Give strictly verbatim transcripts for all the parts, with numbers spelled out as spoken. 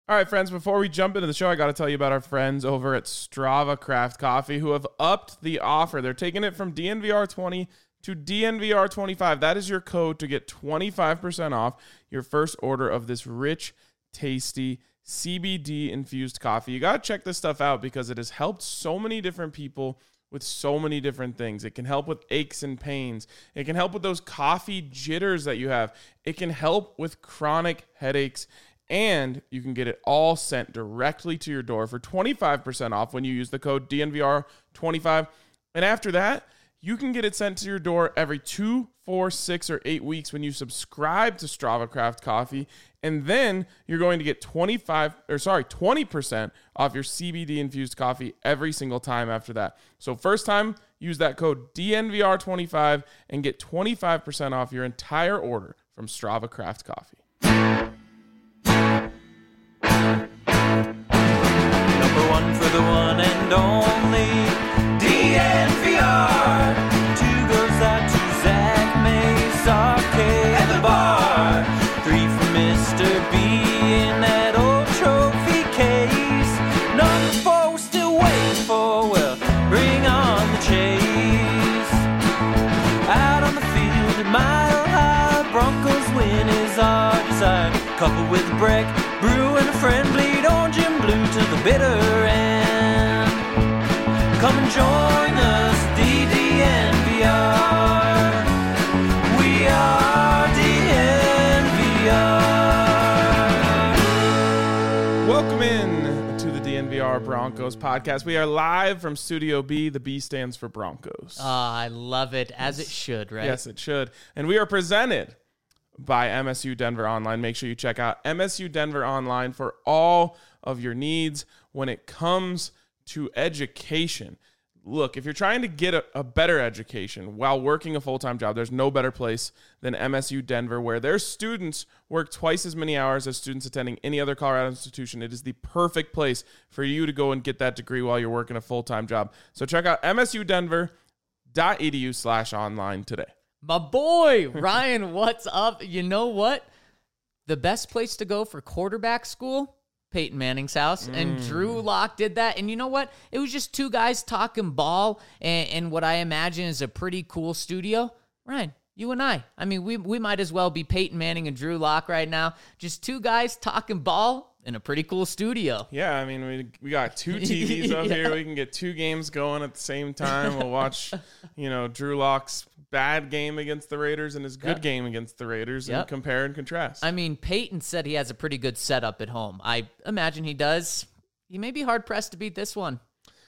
All right, friends, before we jump into the show, I got to tell you about our friends over at Strava Craft Coffee who have upped the offer. They're taking it from D N V R twenty to D N V R twenty-five. That is your code to get twenty-five percent off your first order of this rich, tasty, C B D-infused coffee. You got to check this stuff out because it has helped so many different people with so many different things. It can help with aches and pains. It can help with those coffee jitters that you have. It can help with chronic headaches. And you can get it all sent directly to your door for twenty-five percent off when you use the code D N V R twenty-five. And after that, you can get it sent to your door every two, four, six, or eight weeks when you subscribe to Strava Craft Coffee. And then you're going to get twenty-five or sorry, twenty percent off your C B D infused coffee every single time after that. So first time, use that code D N V R twenty-five and get twenty-five percent off your entire order from Strava Craft Coffee. Number one for the one and only D N V R. Two goes out to Zach Mace, Arcade, and the bar. Three for Mister B in that old trophy case. Number four we're still waiting for, well, bring on the chase. Out on the field at Mile High, Broncos win is our desire. Coupled with a break, brew and a friend, bleed orange and blue to the bitter end. Come and join us, D D N V R. We are D N V R. Welcome in to the D N V R Broncos podcast. We are live from Studio B. The B stands for Broncos. Oh, I love it, as it should, right? Yes, it should. And we are presented by M S U Denver Online. Make sure you check out M S U Denver Online for all of your needs when it comes to education. Look, if you're trying to get a, a better education while working a full-time job, there's no better place than M S U Denver, where their students work twice as many hours as students attending any other Colorado institution. It is the perfect place for you to go and get that degree while you're working a full-time job. So check out M S U Denver dot E D U slash online today. My boy, Ryan, what's up? You know what? The best place to go for quarterback school? Peyton Manning's house. Mm. And Drew Lock did that. And you know what? It was just two guys talking ball and, and what I imagine is a pretty cool studio. Ryan, you and I. I mean, we we might as well be Peyton Manning and Drew Lock right now. Just two guys talking ball in a pretty cool studio. Yeah, I mean, we we got two T Vs up yeah. here. We can get two games going at the same time. We'll watch, you know, Drew Lock's bad game against the Raiders and his good Yep. game against the Raiders Yep. and compare and contrast. I mean, Peyton said he has a pretty good setup at home. I imagine he does. He may be hard-pressed to beat this one.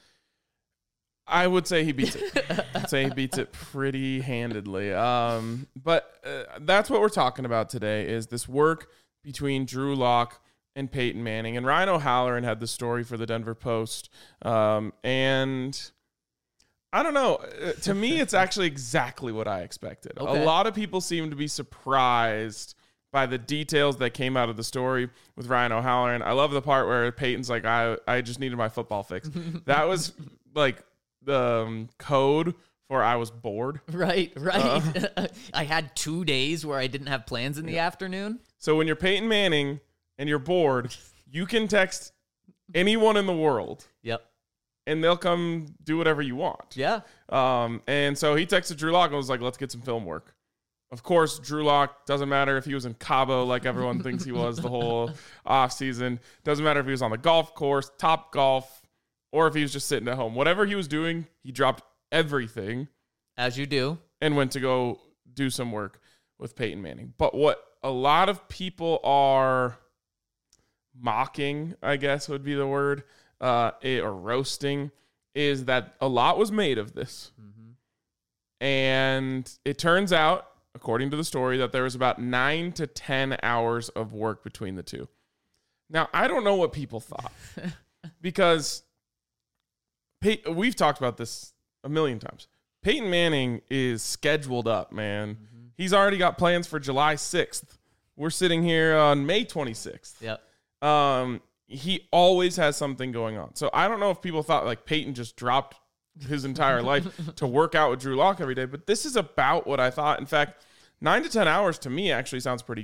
I would say he beats it. I'd say he beats it pretty handedly. Um, but uh, that's what we're talking about today is this work between Drew Lock and Peyton Manning. And Ryan O'Halloran had the story for the Denver Post. Um, and I don't know. Uh, to me, it's actually exactly what I expected. Okay. A lot of people seem to be surprised by the details that came out of the story with Ryan O'Halloran. I love the part where Peyton's like, I, I just needed my football fix. That was like the um, code for I was bored. Right, right. Uh, I had two days where I didn't have plans in the Yeah. afternoon. So when you're Peyton Manning and you're bored, you can text anyone in the world Yep. and they'll come do whatever you want. Yeah. Um, and so he texted Drew Lock and was like, let's get some film work. Of course, Drew Lock, doesn't matter if he was in Cabo like everyone thinks he was the whole offseason. Doesn't matter if he was on the golf course, Top Golf, or if he was just sitting at home. Whatever he was doing, he dropped everything As you do. and went to go do some work with Peyton Manning. But what a lot of people are mocking, I guess would be the word, uh, or roasting, is that a lot was made of this. Mm-hmm. And it turns out, according to the story, that there was about nine to ten hours of work between the two. Now, I don't know what people thought because Pey- we've talked about this a million times. Peyton Manning is scheduled up, man. Mm-hmm. He's already got plans for July sixth. We're sitting here on May twenty-sixth. Yep. Um, he always has something going on. So I don't know if people thought like Peyton just dropped his entire life to work out with Drew Lock every day, but this is about what I thought. In fact, nine to ten hours to me actually sounds pretty good.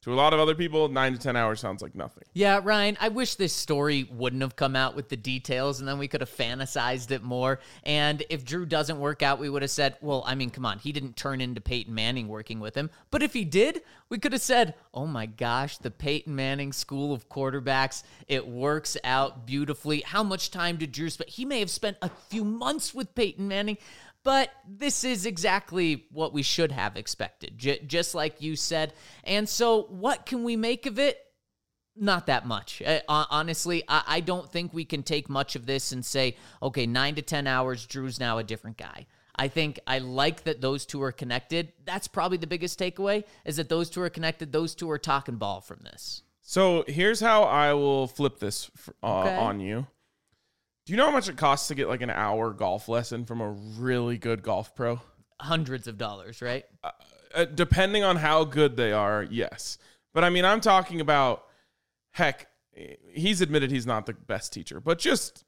To a lot of other people, nine to ten hours sounds like nothing. Yeah, Ryan, I wish this story wouldn't have come out with the details and then we could have fantasized it more. And if Drew doesn't work out, we would have said, well, I mean, come on, he didn't turn into Peyton Manning working with him. But if he did, we could have said, oh my gosh, the Peyton Manning School of Quarterbacks, it works out beautifully. How much time did Drew spend? He may have spent a few months with Peyton Manning. But this is exactly what we should have expected, j- just like you said. And so what can we make of it? Not that much. Uh, honestly, I-, I don't think we can take much of this and say, okay, nine to ten hours, Drew's now a different guy. I think I like that those two are connected. That's probably the biggest takeaway, is that those two are connected. Those two are talking ball from this. So here's how I will flip this uh, Okay. on you. Do you know how much it costs to get like an hour golf lesson from a really good golf pro? Hundreds of dollars, right? Uh, depending on how good they are, yes. But I mean, I'm talking about, heck, he's admitted he's not the best teacher, but just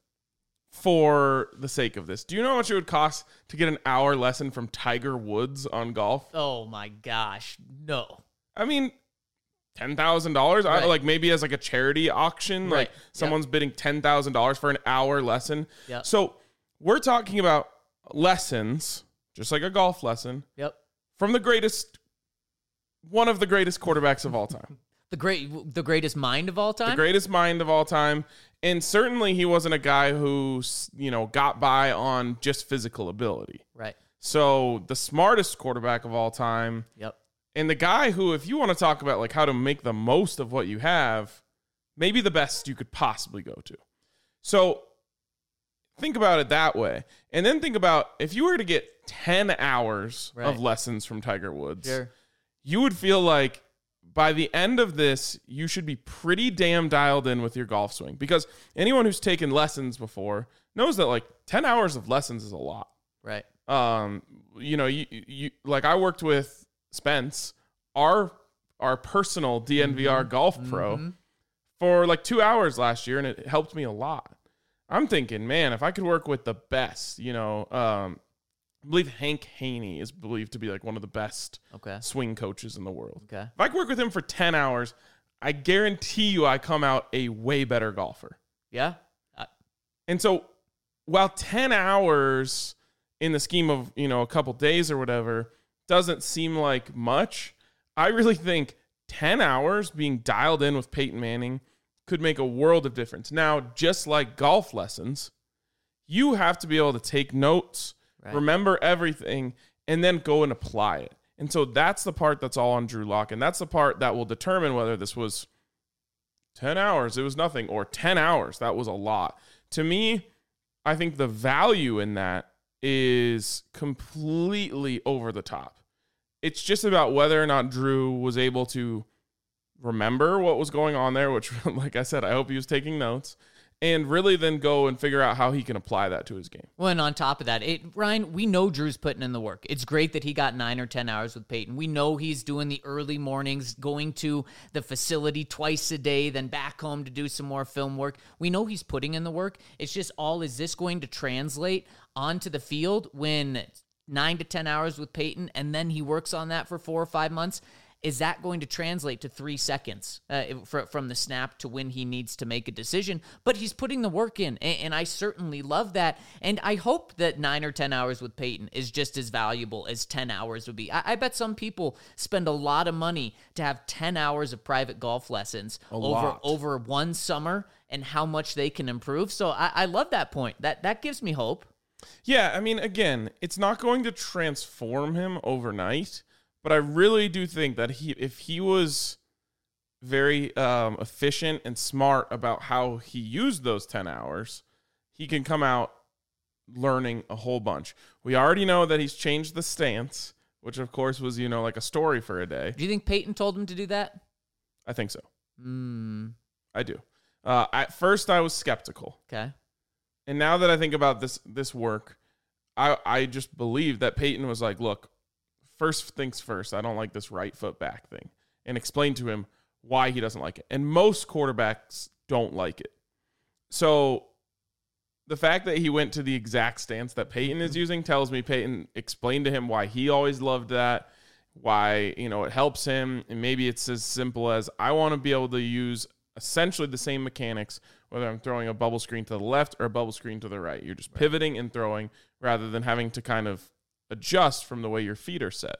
for the sake of this, do you know how much it would cost to get an hour lesson from Tiger Woods on golf? Oh my gosh, no. I mean, ten thousand dollars, Right. like maybe as like a charity auction, Right. like someone's bidding ten thousand dollars for an hour lesson. Yep. So we're talking about lessons, just like a golf lesson, Yep. from the greatest, one of the greatest quarterbacks of all time, The great, the greatest mind of all time? the greatest mind of all time. And certainly he wasn't a guy who, you know, got by on just physical ability. Right. So the smartest quarterback of all time. Yep. And the guy who, if you want to talk about like how to make the most of what you have, maybe the best you could possibly go to. So think about it that way. And then think about if you were to get ten hours Right. of lessons from Tiger Woods, Sure. you would feel like by the end of this, you should be pretty damn dialed in with your golf swing. Because anyone who's taken lessons before knows that like ten hours of lessons is a lot. Right. Um, you know, you, you like I worked with Spence, our our personal D N V R Mm-hmm. golf pro, Mm-hmm. for like two hours last year, and it helped me a lot. I'm thinking, man, if I could work with the best, you know, um, I believe Hank Haney is believed to be like one of the best Okay. swing coaches in the world. Okay. If I could work with him for ten hours, I guarantee you I come out a way better golfer. Yeah. Uh, And so while ten hours in the scheme of, you know, a couple days or whatever doesn't seem like much, I really think ten hours being dialed in with Peyton Manning could make a world of difference. Now, just like golf lessons, you have to be able to take notes, Right. remember everything, and then go and apply it. And so that's the part that's all on Drew Lock, and that's the part that will determine whether this was ten hours, it was nothing, or ten hours, that was a lot. To me, I think the value in that is completely over the top. It's just about whether or not Drew was able to remember what was going on there, which, like I said, I hope he was taking notes, and really then go and figure out how he can apply that to his game. Well, and on top of that, it, Ryan, we know Drew's putting in the work. It's great that he got nine or ten hours with Peyton. We know he's doing the early mornings, going to the facility twice a day, then back home to do some more film work. We know he's putting in the work. It's just all, is this going to translate onto the field when nine to ten hours with Peyton, and then he works on that for four or five months? Is that going to translate to three seconds uh, fr- from the snap to when he needs to make a decision? But he's putting the work in, and, and I certainly love that. And I hope that nine or ten hours with Peyton is just as valuable as ten hours would be. I, I bet some people spend a lot of money to have ten hours of private golf lessons over lot. over one summer, and how much they can improve. So I, I love that point. That that gives me hope. Yeah, I mean, again, it's not going to transform him overnight, but I really do think that he, if he was very um, efficient and smart about how he used those ten hours, he can come out learning a whole bunch. We already know that he's changed the stance, which of course was, you know, like a story for a day. Do you think Peyton told him to do that? I think so. Hmm. I do. Uh, at first, I was skeptical. Okay. And now that I think about this this work, I I just believe that Peyton was like, look, first things first, I don't like this right foot back thing, and explain to him why he doesn't like it. And most quarterbacks don't like it. So the fact that he went to the exact stance that Peyton is using tells me Peyton explained to him why he always loved that, why, you know, it helps him. And maybe it's as simple as I want to be able to use essentially the same mechanics, whether I'm throwing a bubble screen to the left or a bubble screen to the right. You're just pivoting and throwing rather than having to kind of adjust from the way your feet are set.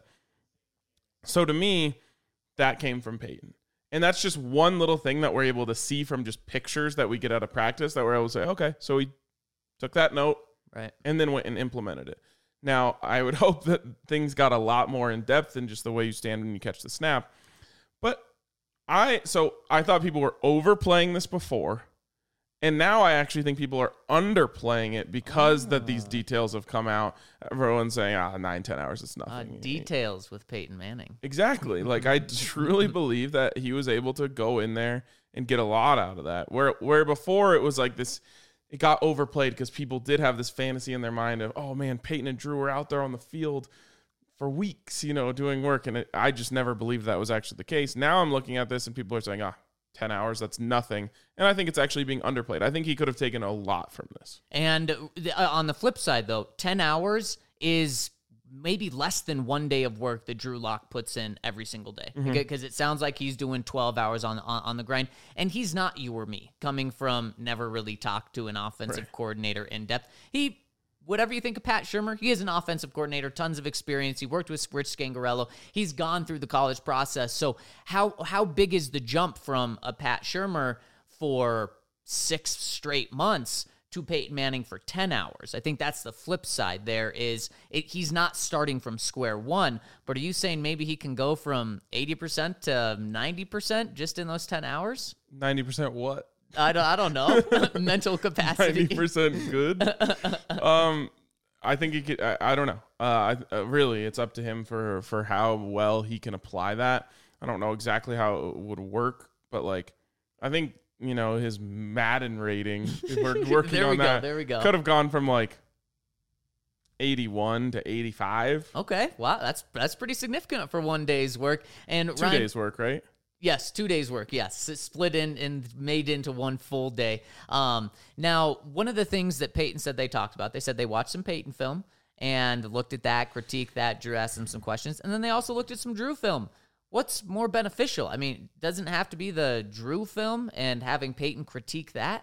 So to me, that came from Peyton. And that's just one little thing that we're able to see from just pictures that we get out of practice that we're able to say, okay, so he took that note right, and then went and implemented it. Now, I would hope that things got a lot more in depth than just the way you stand when you catch the snap. But I, so I thought people were overplaying this before. And now I actually think people are underplaying it because oh. that these details have come out. Everyone's saying, ah, nine, ten hours, it's nothing. Uh, details with Peyton Manning. Exactly. Like, I truly believe that he was able to go in there and get a lot out of that. Where, where before it was like this, it got overplayed because people did have this fantasy in their mind of, oh, man, Peyton and Drew were out there on the field for weeks, you know, doing work. And it, I just never believed that was actually the case. Now I'm looking at this and people are saying, ah, ten hours, that's nothing. And I think it's actually being underplayed. I think he could have taken a lot from this. And uh, on the flip side, though, ten hours is maybe less than one day of work that Drew Lock puts in every single day. Mm-hmm. Because it sounds like he's doing twelve hours on, on, on the grind. And he's not you or me, coming from never really talked to an offensive right. coordinator in depth. He... Whatever you think of Pat Shurmur, he is an offensive coordinator, tons of experience. He worked with Rich Scangarello. He's gone through the college process. So how how big is the jump from a Pat Shurmur for six straight months to Peyton Manning for ten hours? I think that's the flip side there is it, he's not starting from square one, but are you saying maybe he can go from eighty percent to ninety percent just in those ten hours? ninety percent what? I don't, I don't know. Mental capacity. ninety percent good. um, I think he could, I, I don't know. Uh, I, uh, really, it's up to him for, for how well he can apply that. I don't know exactly how it would work, but like, I think, you know, his Madden rating, if we're working there we on go, that, there we go. Could have gone from like eighty-one to eighty-five. Okay. Wow. That's, that's pretty significant for one day's work. And Two Ryan, days work, right? Yes, two days work. Yes, it's split in and made into one full day. Um, now, one of the things that Peyton said they talked about, they said they watched some Peyton film and looked at that, critiqued that. Drew asked them some questions, and then they also looked at some Drew film. What's more beneficial? I mean, doesn't have to be the Drew film and having Peyton critique that.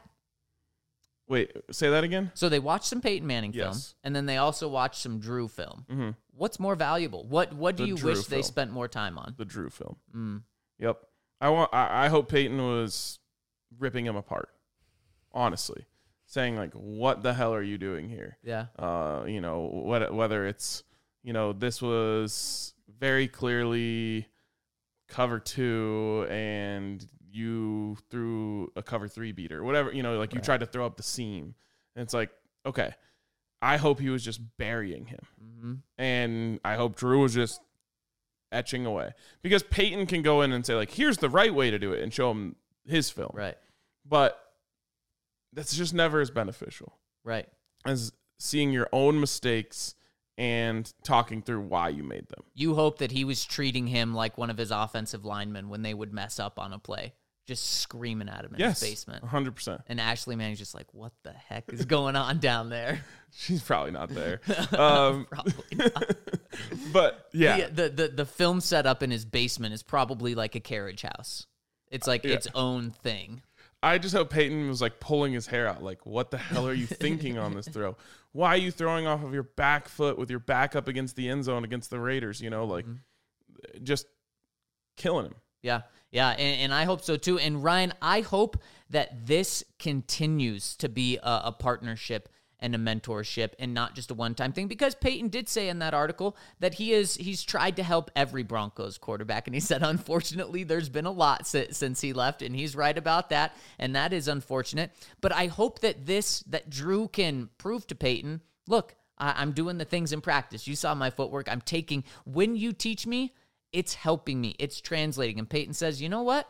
Wait, say that again? So they watched some Peyton Manning yes. film, and then they also watched some Drew film. Mm-hmm. What's more valuable? What What do the you Drew wish film. they spent more time on? The Drew film. Mm. Yep. I want. I, I hope Peyton was ripping him apart. Honestly, saying like, "What the hell are you doing here?" Yeah. Uh, you know, what, whether it's, you know, this was very clearly cover two and you threw a cover three beater, whatever, you know, like right. you tried to throw up the seam. And it's like, okay, I hope he was just burying him. Mm-hmm. And I hope Drew was just etching away, because Peyton can go in and say like, here's the right way to do it and show him his film. Right. But that's just never as beneficial. Right. As seeing your own mistakes and talking through why you made them. You hope that he was treating him like one of his offensive linemen when they would mess up on a play, just screaming at him in yes, his basement. one hundred percent. And Ashley Manning's just like, what the heck is going on down there? She's probably not there. Um, probably not. But, yeah. The, the, the, the film setup in his basement is probably like a carriage house. It's like yeah. its own thing. I just hope Peyton was like pulling his hair out. Like, what the hell are you thinking on this throw? Why are you throwing off of your back foot with your back up against the end zone against the Raiders? You know, like mm-hmm. just killing him. Yeah. Yeah. And, and I hope so too. And Ryan, I hope that this continues to be a, a partnership and a mentorship and not just a one-time thing, because Peyton did say in that article that he is he's tried to help every Broncos quarterback, and he said unfortunately there's been a lot since, since he left, and he's right about that, and that is unfortunate. But I hope that this that Drew can prove to Peyton, look, I, I'm doing the things in practice. You saw my footwork. I'm taking when you teach me, it's helping me. It's translating. And Peyton says, you know what?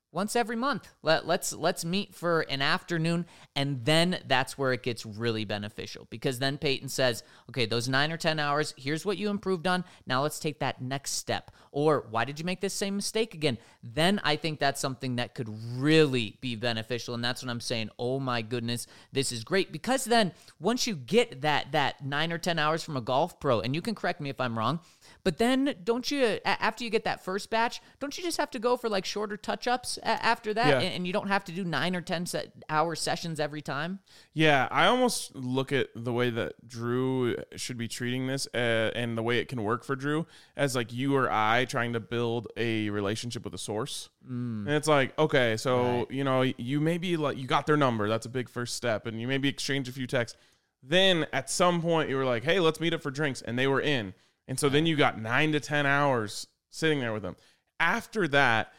once every month. Let, let's let's meet for an afternoon, and then that's where it gets really beneficial, because then Peyton says, okay, those nine or ten hours, here's what you improved on. Now let's take that next step. Or why did you make this same mistake again? Then I think that's something that could really be beneficial, and that's what I'm saying. Oh my goodness, this is great, because then once you get that that nine or ten hours from a golf pro, and you can correct me if I'm wrong, but then don't you, after you get that first batch, don't you just have to go for like shorter touch-ups after that? Yeah. And you don't have to do nine or ten hour sessions every time? Yeah, I almost look at the way that Drew should be treating this uh, and the way it can work for Drew as like you or I trying to build a relationship with a source. Mm. And it's like, okay, so, right. you know, you maybe like, you got their number. That's a big first step. And you maybe exchange a few texts. Then at some point you were like, hey, let's meet up for drinks. And they were in. And so then you got nine to ten hours sitting there with them. After that,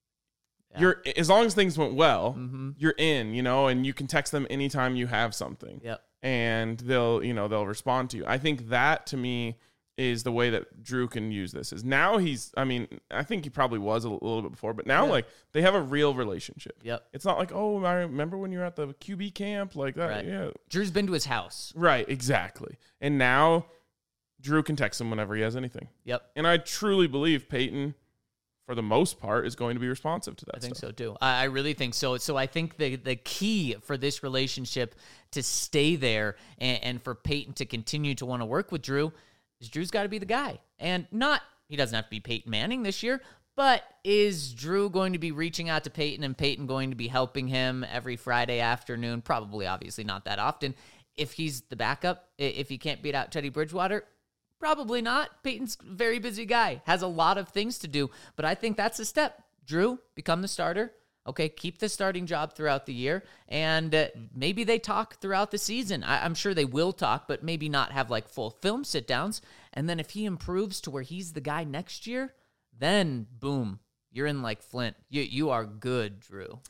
yeah. you're as long as things went well, mm-hmm. you're in, you know, and you can text them anytime you have something. Yep. And they'll, you know, they'll respond to you. I think that to me is the way that Drew can use this. Is now he's, I mean, I think he probably was a little bit before, but now yeah. like they have a real relationship. Yep. It's not like, oh, I remember when you were at the Q B camp like that. Right. Yeah. Drew's been to his house. Right. Exactly. And now Drew can text him whenever he has anything. Yep. And I truly believe Peyton, for the most part, is going to be responsive to that I think stuff. so, too. I, I really think so. So I think the, the key for this relationship to stay there and, and for Peyton to continue to want to work with Drew is Drew's got to be the guy. And not, he doesn't have to be Peyton Manning this year, but is Drew going to be reaching out to Peyton and Peyton going to be helping him every Friday afternoon? Probably, obviously, not that often. If he's the backup, if he can't beat out Teddy Bridgewater, probably not. Peyton's a very busy guy, has a lot of things to do, but I think that's a step. Drew, become the starter. Okay, keep the starting job throughout the year, and uh, maybe they talk throughout the season. I- I'm sure they will talk, but maybe not have like full film sit-downs. And then if he improves to where he's the guy next year, then boom, you're in like Flint. You you are good, Drew.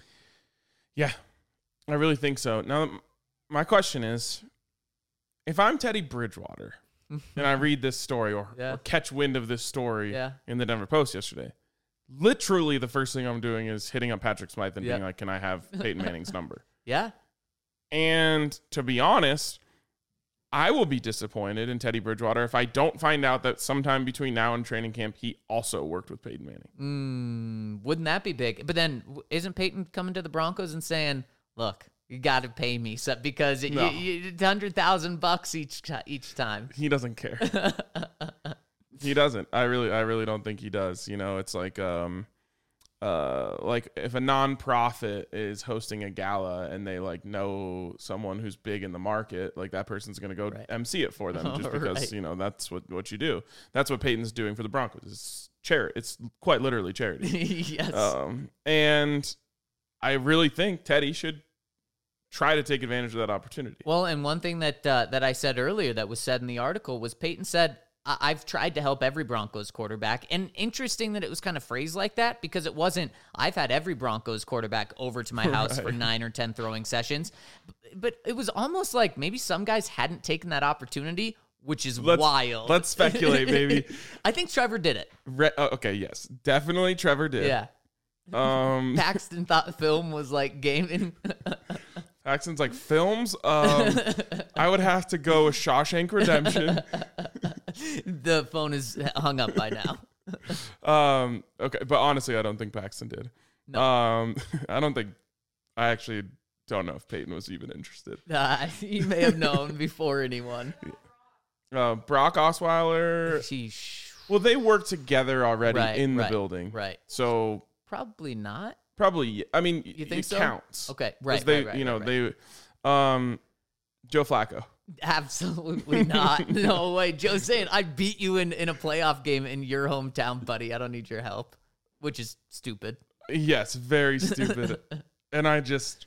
Yeah, I really think so. Now, my question is, if I'm Teddy Bridgewater and I read this story or, yeah. or catch wind of this story yeah. in the Denver Post yesterday, literally the first thing I'm doing is hitting up Patrick Smythe and yeah. being like, can I have Peyton Manning's number? Yeah. And to be honest, I will be disappointed in Teddy Bridgewater if I don't find out that sometime between now and training camp, he also worked with Peyton Manning. Mm, wouldn't that be big? But then isn't Peyton coming to the Broncos and saying, look, you got to pay me so, because it, no. you, you, one hundred thousand bucks each each time. He doesn't care. He doesn't. I really, I really don't think he does. You know, it's like, um, uh, like if a nonprofit is hosting a gala and they like know someone who's big in the market, like that person's going to go right. M C it for them just because, right. you know, that's what, what you do. That's what Peyton's doing for the Broncos. It's charity. It's quite literally charity. Yes. Um, and I really think Teddy should try to take advantage of that opportunity. Well, and one thing that uh, that I said earlier that was said in the article was Peyton said, I- I've tried to help every Broncos quarterback. And interesting that it was kind of phrased like that, because it wasn't, I've had every Broncos quarterback over to my house right. for nine or ten throwing sessions. But it was almost like maybe some guys hadn't taken that opportunity, which is let's, wild. Let's speculate, baby. I think Trevor did it. Re- uh, okay, yes. Definitely Trevor did. Yeah. Um, Paxton thought film was like gaming. Paxton's like, films? Um, I would have to go with Shawshank Redemption. The phone is hung up by now. um, okay, but honestly, I don't think Paxton did. No. Um, I don't think, I actually don't know if Peyton was even interested. Uh, he may have known before anyone. Uh, Brock Osweiler. Sheesh. Well, they work together already right, in the right, building. Right. So. Probably not. Probably. I mean, you think it so? counts. Okay. Right. They, right, right. You know, right, they, um, Joe Flacco. Absolutely not. No way. Joe's saying, I beat you in, in a playoff game in your hometown, buddy. I don't need your help, which is stupid. Yes, very stupid. And I just,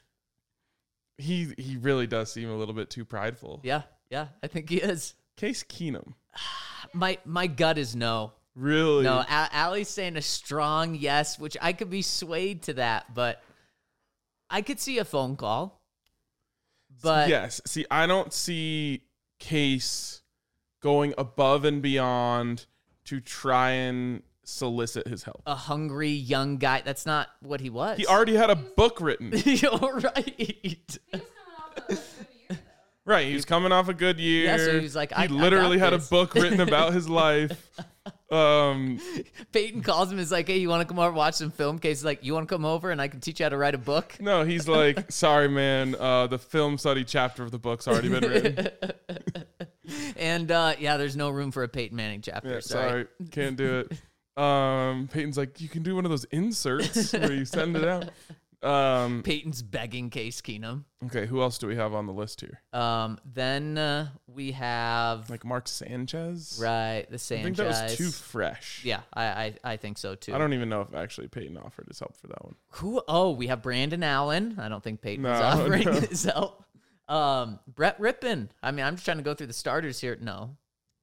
he he really does seem a little bit too prideful. Yeah, yeah, I think he is. Case Keenum. My my gut is no. Really? No, A- Allie's saying a strong yes, which I could be swayed to that, but I could see a phone call. But yes. See, I don't see Case going above and beyond to try and solicit his help. A hungry young guy. That's not what he was. He already had a book written. You're right. He was coming off a good year, though. Right, he was coming off a good year. Yeah, so he was like, I- I he literally got had this. a book written about his life. Um, Peyton calls him. Is like, hey, you want to come over and watch some film? Case like, you want to come over and I can teach you how to write a book. no, he's like, sorry, man. Uh, the film study chapter of the book's already been written. And uh, yeah, there's no room for a Peyton Manning chapter. Yeah, sorry. sorry, can't do it. Um, Peyton's like, you can do one of those inserts where you send it out. Um, Peyton's begging Case Keenum. okay, who else do we have on the list here? Um, then uh, we have Like Mark Sanchez? right the I Sanchez. think that was too fresh. Yeah, I, I I think so too. I don't even know if actually Peyton offered his help for that one. Who? Oh, we have Brandon Allen. I don't think Peyton was No, offering no. his help. Um, Brett Rippon. I mean, I'm just trying to go through the starters here. No,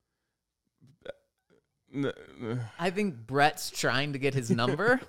N- n- I think Brett's trying to get his number.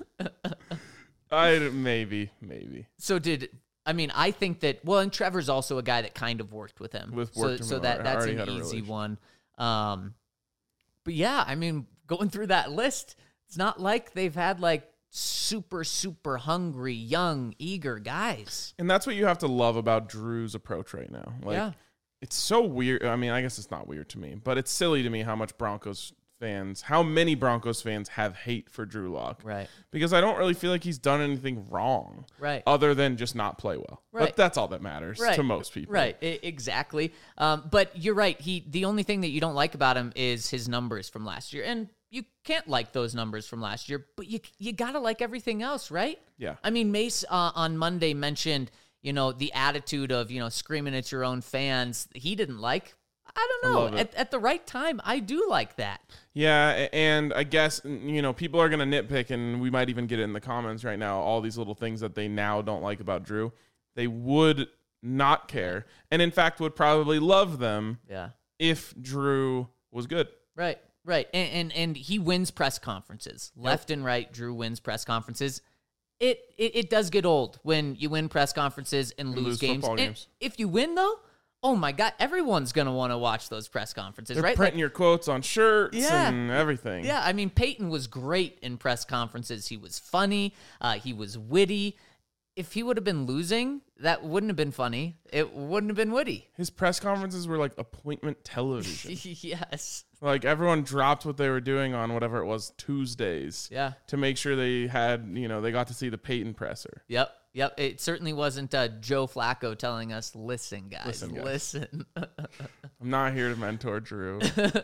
I maybe, maybe. So did I mean? I think that. Well, and Trevor's also a guy that kind of worked with him. With so worked him so al- that that's already an had a easy relation. one. Um, but yeah, I mean, going through that list, it's not like they've had like super super hungry, young, eager guys. And that's what you have to love about Drew's approach right now. Like, Yeah. it's so weird. I mean, I guess it's not weird to me, but it's silly to me how much Broncos fans, how many Broncos fans have hate for Drew Lock. Right. Because I don't really feel like he's done anything wrong. Right. Other than just not play well. Right. But that's all that matters Right. to most people. Right, I- exactly. Um, but you're right. He the only thing that you don't like about him is his numbers from last year, and you can't like those numbers from last year. But you you gotta like everything else, right? Yeah. I mean, Mace uh, on Monday mentioned you know the attitude of you know screaming at your own fans. He didn't like. I don't I know. love it. At, at the right time, I do like that. Yeah, a- and I guess, you know, people are going to nitpick, and we might even get it in the comments right now, all these little things that they now don't like about Drew. They would not care, and in fact would probably love them Yeah. if Drew was good. Right, right. And and, and he wins press conferences. Left and right, Drew wins press conferences. It, it it does get old when you win press conferences and lose, lose games. football And games. if you win, though, oh my God, everyone's going to want to watch those press conferences, They're right? printing Like, your quotes on shirts Yeah. and everything. yeah, I mean, Peyton was great in press conferences. He was funny. Uh, he was witty. If he would have been losing, that wouldn't have been funny. It wouldn't have been witty. His press conferences were like appointment television. Yes. Like everyone dropped what they were doing on whatever it was, Tuesdays. Yeah. To make sure they had, you know, they got to see the Peyton presser. Yep. Yep. It certainly wasn't uh, Joe Flacco telling us, listen, guys, Listen, guys." listen. I'm not here to mentor Drew.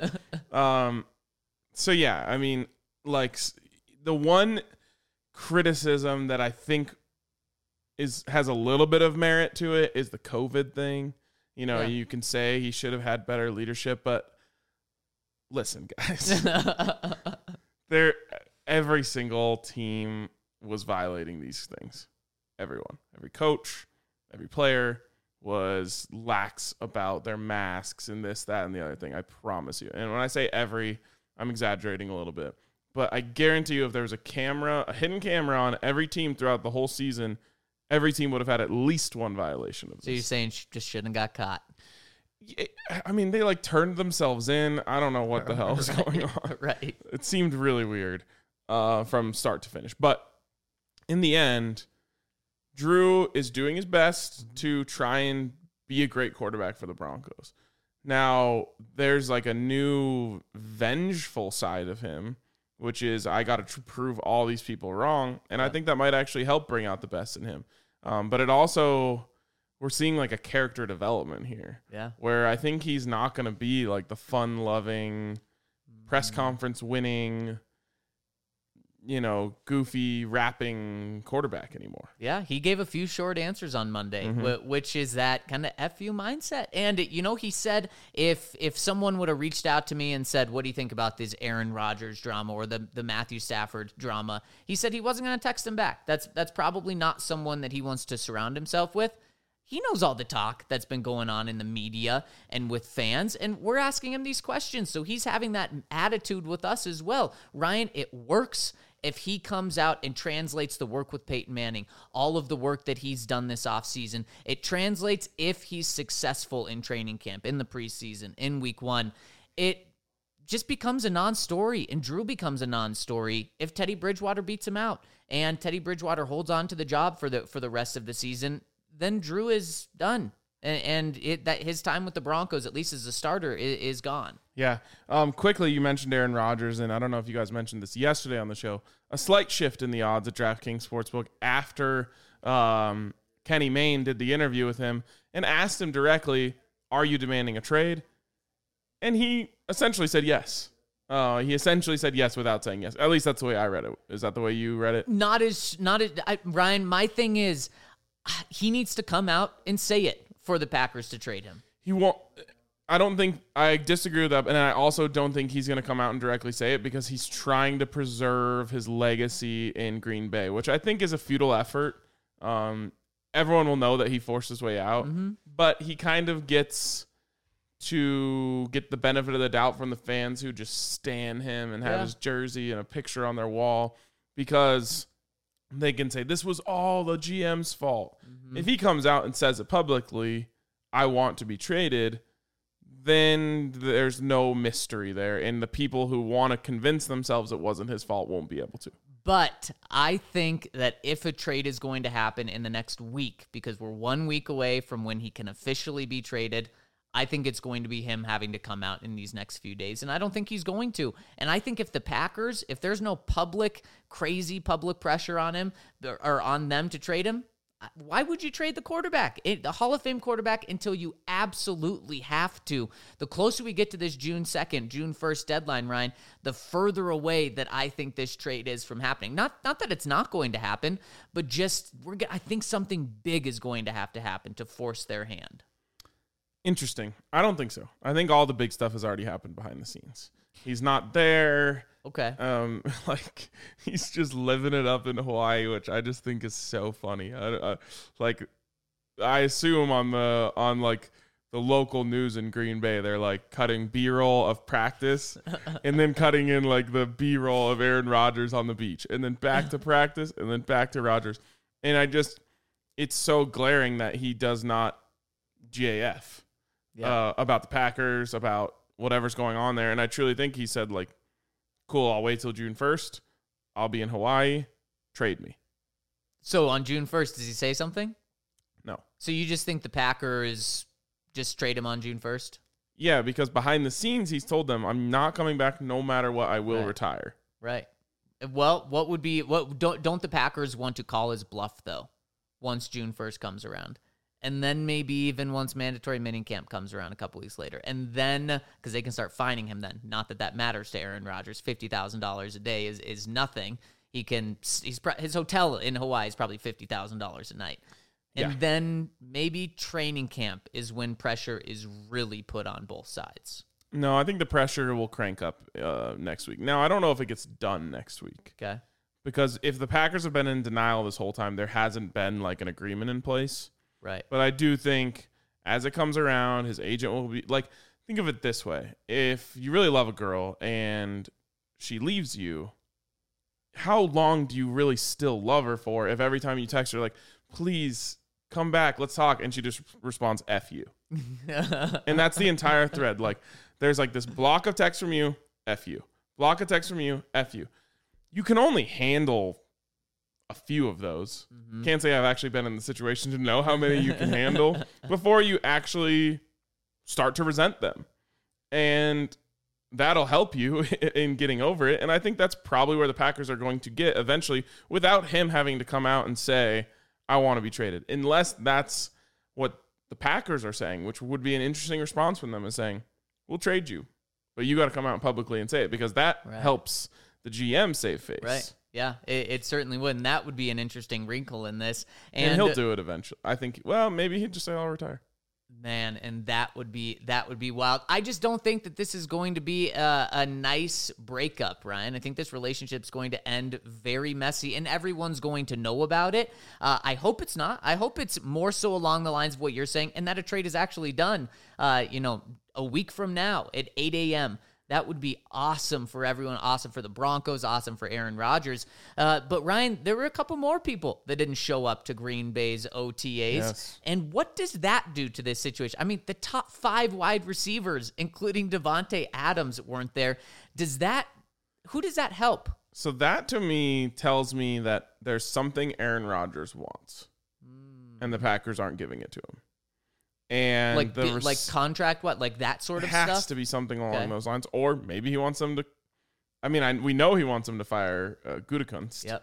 um, so yeah, I mean, like s- the one criticism that I think is has a little bit of merit to it is the COVID thing. You know, Yeah. you can say he should have had better leadership, but listen, guys, there every single team was violating these things. Everyone, every coach, every player was lax about their masks and this, that, and the other thing. I promise you. And when I say every, I'm exaggerating a little bit. But I guarantee you if there was a camera, a hidden camera on every team throughout the whole season, every team would have had at least one violation of So you're this. saying she just shouldn't have got caught. Yeah, I mean, they like turned themselves in. I don't know what the hell is going on. Right. It seemed really weird uh, from start to finish. But in the end, Drew is doing his best to try and be a great quarterback for the Broncos. Now, there's like a new vengeful side of him, which is I got to tr- prove all these people wrong. And I think that might actually help bring out the best in him. Um, but it also, we're seeing like a character development here. Yeah. Where I think he's not going to be like the fun-loving, press conference winning, you know, goofy rapping quarterback anymore. Yeah, he gave a few short answers on Monday, Mm-hmm. wh- which is that kind of F you mindset. And, you know, he said if if someone would have reached out to me and said, what do you think about this Aaron Rodgers drama or the, the Matthew Stafford drama? He said he wasn't going to text him back. That's That's probably not someone that he wants to surround himself with. He knows all the talk that's been going on in the media and with fans, and we're asking him these questions. So he's having that attitude with us as well. Ryan, it works if he comes out and translates the work with Peyton Manning, all of the work that he's done this offseason. It translates if he's successful in training camp, in the preseason, in week one. It just becomes a non-story, and Drew becomes a non-story if Teddy Bridgewater beats him out, and Teddy Bridgewater holds on to the job for the for the rest of the season. Then Drew is done, and, and it, that his time with the Broncos, at least as a starter, is, is gone. Yeah. Um, quickly, you mentioned Aaron Rodgers, and I don't know if you guys mentioned this yesterday on the show. A slight shift in the odds at DraftKings Sportsbook after um, Kenny Mayne did the interview with him and asked him directly, "Are you demanding a trade?" And he essentially said yes. Uh, he essentially said yes without saying yes. At least that's the way I read it. Is that the way you read it? Not as not as I, Ryan. My thing is, he needs to come out and say it for the Packers to trade him. He won't. I don't think I disagree with that, and I also don't think he's going to come out and directly say it because he's trying to preserve his legacy in Green Bay, which I think is a futile effort. Um, everyone will know that he forced his way out, Mm-hmm. but he kind of gets to get the benefit of the doubt from the fans who just stan him and have Yeah. his jersey and a picture on their wall because they can say this was all the G M's fault. Mm-hmm. If he comes out and says it publicly, I want to be traded, then there's no mystery there. And the people who want to convince themselves it wasn't his fault won't be able to. But I think that if a trade is going to happen in the next week, because we're one week away from when he can officially be traded, I think it's going to be him having to come out in these next few days. And I don't think he's going to. And I think if the Packers, if there's no public, crazy public pressure on him or on them to trade him, why would you trade the quarterback, it, the Hall of Fame quarterback, until you absolutely have to? The closer we get to this June second, June first deadline, Ryan, the further away that I think this trade is from happening. Not not that it's not going to happen, but just we're. I think something big is going to have to happen to force their hand. Interesting. I don't think so. I think all the big stuff has already happened behind the scenes. He's not there. Okay. Um, like he's just living it up in Hawaii, which I just think is so funny. I, I, like, I assume on the on like the local news in Green Bay, they're like cutting B-roll of practice, and then cutting in like the B-roll of Aaron Rodgers on the beach, and then back to practice, and then back to Rodgers. And I just, it's so glaring that he does not G A F Yeah. uh, about the Packers, about whatever's going on there. And I truly think he said like, cool, I'll wait till June first. I'll be in Hawaii. Trade me. So on June first, does he say something? No. So you just think the Packers just trade him on June first? Yeah, because behind the scenes, he's told them, I'm not coming back no matter what. I will Right. retire. Right. Well, what would be what? Don't don't the Packers want to call his bluff though? Once June first comes around, and then maybe even once mandatory minicamp comes around a couple weeks later, and then because they can start fining him then. Not that that matters to Aaron Rodgers. Fifty thousand dollars a day is is nothing. He can he's his hotel in Hawaii is probably fifty thousand dollars a night. And Yeah. then maybe training camp is when pressure is really put on both sides. No, I think the pressure will crank up uh, next week. Now, I don't know if it gets done next week. Okay. Because if the Packers have been in denial this whole time, there hasn't been like an agreement in place. Right. But I do think as it comes around, his agent will be like, think of it this way. If you really love a girl and she leaves you, how long do you really still love her for if every time you text her, like, please come back, let's talk, and she just responds, F you. And that's the entire thread. Like, there's like this block of text from you, F you. Block of text from you, F you. You can only handle a few of those. Mm-hmm. Can't say I've actually been in the situation to know how many you can handle before you actually start to resent them. And that'll help you in getting over it. And I think that's probably where the Packers are going to get eventually without him having to come out and say, I want to be traded. Unless that's what the Packers are saying, which would be an interesting response from them, is saying, we'll trade you. But you got to come out publicly and say it because that Right. helps the G M save face. Right. Yeah, it, it certainly would. And that would be an interesting wrinkle in this. And, And, he'll do it eventually. I think, well, maybe he'd just say, I'll retire. Man, and that would be that would be wild. I just don't think that this is going to be a, a nice breakup, Ryan. I think this relationship's going to end very messy, and everyone's going to know about it. Uh, I hope it's not. I hope it's more so along the lines of what you're saying, and that a trade is actually done. Uh, you know, a week from now at eight a.m., That would be awesome for everyone, awesome for the Broncos, awesome for Aaron Rodgers. Uh, but, Ryan, there were a couple more people that didn't show up to Green Bay's O T As. Yes. And what does that do to this situation? I mean, the top five wide receivers, including Devontae Adams, weren't there. Does that – who does that help? So that to me tells me that there's something Aaron Rodgers wants, and the Packers aren't giving it to him. And Like, the be- res- like contract, what? Like that sort of has stuff? to be something along Okay. those lines, or maybe he wants them to. I mean, I, we know he wants them to fire uh, Gutekunst. Yep.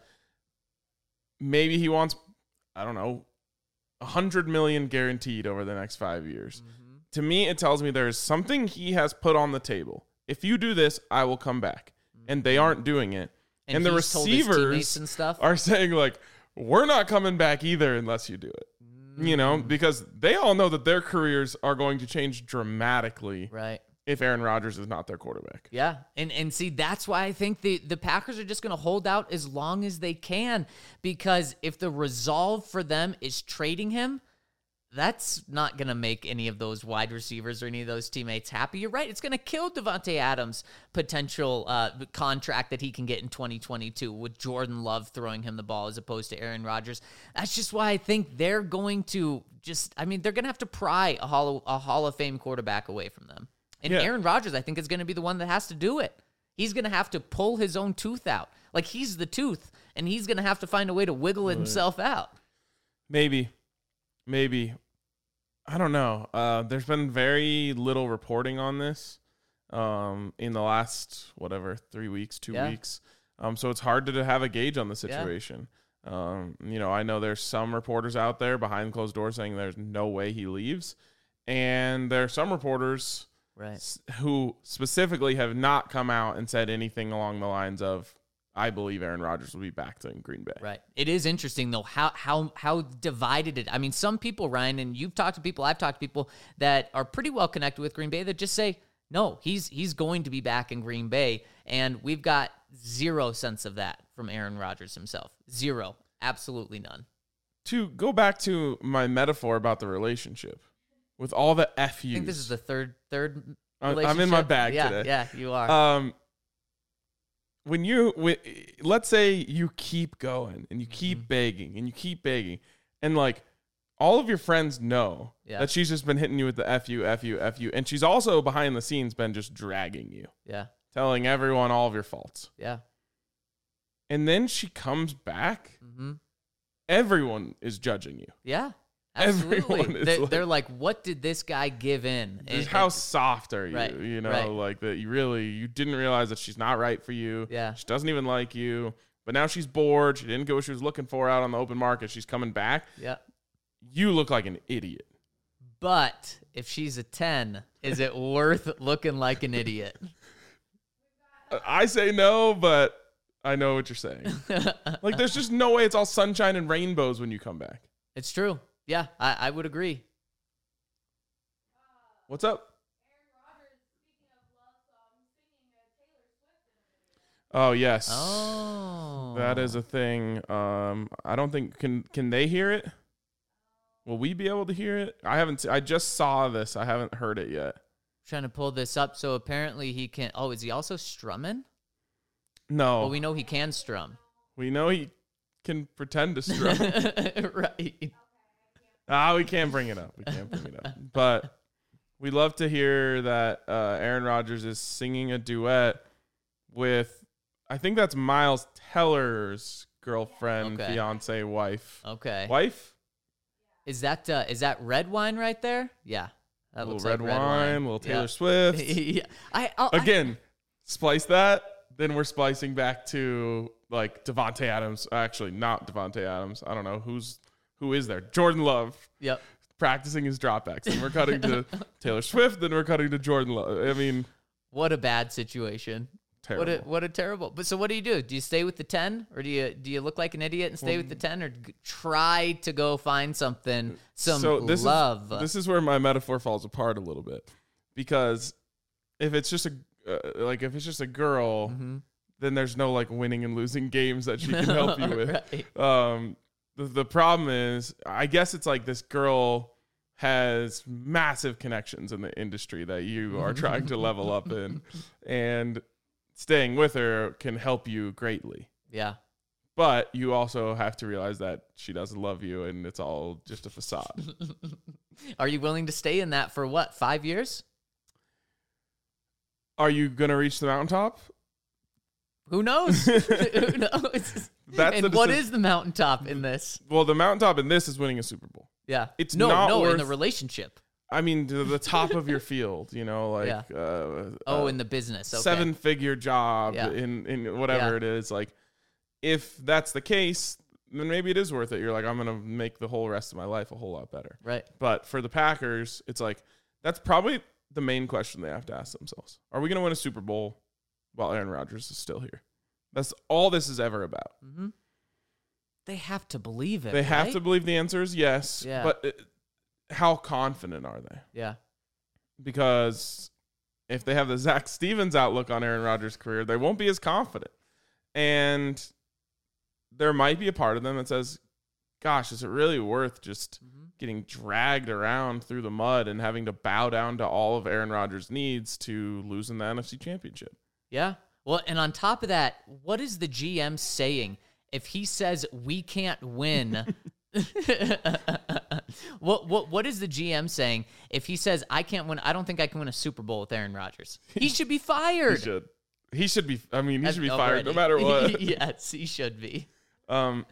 Maybe he wants, I don't know, a hundred million guaranteed over the next five years. Mm-hmm. To me, it tells me there is something he has put on the table. If you do this, I will come back, and they aren't doing it. And, And the he's told his teammates receivers and stuff. Are saying like, we're not coming back either unless you do it. You know, because they all know that their careers are going to change dramatically Right. if Aaron Rodgers is not their quarterback. Yeah. And and see, that's why I think the, the Packers are just going to hold out as long as they can, because if the resolve for them is trading him, that's not going to make any of those wide receivers or any of those teammates happy. You're right. It's going to kill Devontae Adams' potential uh, contract that he can get in twenty twenty-two with Jordan Love throwing him the ball as opposed to Aaron Rodgers. That's just why I think they're going to just, I mean, they're going to have to pry a Hall, a Hall of Fame quarterback away from them. And Yeah. Aaron Rodgers, I think, is going to be the one that has to do it. He's going to have to pull his own tooth out. Like, he's the tooth, and he's going to have to find a way to wiggle himself out. Maybe. Maybe. I don't know. Uh, there's been very little reporting on this um, in the last, whatever, three weeks, two Yeah. weeks. Um, so it's hard to have a gauge on the situation. Um, you know, I know there's some reporters out there behind closed doors saying there's no way he leaves. And there are some reporters Right. s- who specifically have not come out and said anything along the lines of, I believe Aaron Rodgers will be back to Green Bay. Right. It is interesting though how how how divided it. I mean, some people, Ryan, and you've talked to people, I've talked to people that are pretty well connected with Green Bay that just say, no, he's he's going to be back in Green Bay, and we've got zero sense of that from Aaron Rodgers himself. Zero. Absolutely none. To go back to my metaphor about the relationship, with all the F Us. I think this is the third third. I'm I'm in my relationship. bag yeah, today. Yeah, you are. Um, when you, when, let's say you keep going and you keep Mm-hmm. begging and you keep begging, and like all of your friends know Yeah. that she's just been hitting you with the F you, F you, F you, and she's also behind the scenes been just dragging you, yeah, telling everyone all of your faults. yeah. And then she comes back, Mm-hmm. everyone is judging you. Yeah, Everyone absolutely. is They're, like- they're like, what did this guy give in? Just And- how and- soft are you? Right, You know, right. like that you really you didn't realize that she's not right for you. Yeah. She doesn't even like you. But now she's bored. She didn't get what she was looking for out on the open market. She's coming back. yeah. You look like an idiot. But if she's a ten, is it worth looking like an idiot? I say no, but I know what you're saying. Like there's just no way it's all sunshine and rainbows when you come back. It's true. Yeah, I, I would agree. What's up? Oh yes. Oh. That is a thing. Um, I don't think can can they hear it? Will we be able to hear it? I haven't. se- I just saw this. I haven't heard it yet. Trying to pull this up. So apparently he can. Oh, is he also strumming? No, Well, we know he can strum. we know he can pretend to strum. Right. ah, we can't bring it up. We can't bring it up. But we love to hear that uh, Aaron Rodgers is singing a duet with. I think that's Miles Teller's girlfriend, Okay. fiance, wife. Okay. Wife. Is that uh, is that red wine right there? Yeah. That A little looks red, like red wine, little Taylor Yeah. Swift. yeah. I I'll, I- Again, splice that. Then we're splicing back to like Devontae Adams. Actually, not Devontae Adams. I don't know who's who is there. Jordan Love Yep. practicing his dropbacks. Then we're cutting to Taylor Swift. Then we're cutting to Jordan Love. I mean, What a bad situation. terrible. What a what a terrible. But so what do you do? Do you stay with the ten, or do you do you look like an idiot and stay with the ten, or g- try to go find something some so this love? Is, this is where my metaphor falls apart a little bit, because if it's just a uh, like if it's just a girl, Mhm. then there's no like winning and losing games that she can help you with. Right. Um, the, the problem is, I guess it's like this girl has massive connections in the industry that you are trying to level up in, and staying with her can help you greatly. Yeah. But you also have to realize that she doesn't love you and it's all just a facade. Are you willing to stay in that for what, five years? Are you going to reach the mountaintop? Who knows? Who knows? That's and the what deci- is the mountaintop in this? Well, the mountaintop in this is winning a Super Bowl. Yeah. It's no, not no, worth, in the relationship. I mean, to the top of your field, you know, like Yeah. uh, Oh, uh, in the business. Okay. seven-figure job Yeah. in, in whatever Yeah. it is. Like, if that's the case, then maybe it is worth it. You're like, I'm going to make the whole rest of my life a whole lot better. Right. But for the Packers, it's like, that's probably the main question they have to ask themselves. Are we going to win a Super Bowl while Aaron Rodgers is still here? That's all this is ever about. Mm-hmm. They have to believe it. They have right? to believe the answer is yes. Yeah. But it, how confident are they? Yeah. Because if they have the Zach Stevens outlook on Aaron Rodgers' career, they won't be as confident. And there might be a part of them that says, gosh, is it really worth just Mm-hmm. getting dragged around through the mud and having to bow down to all of Aaron Rodgers' needs to lose in the N F C Championship? Yeah. Well, and on top of that, what is the G M saying? If he says we can't win, what what what is the G M saying? If he says I can't win, I don't think I can win a Super Bowl with Aaron Rodgers. He should be He fired. should. He should be. I mean, he should be Already. fired no matter what. Yes, he should be. Um,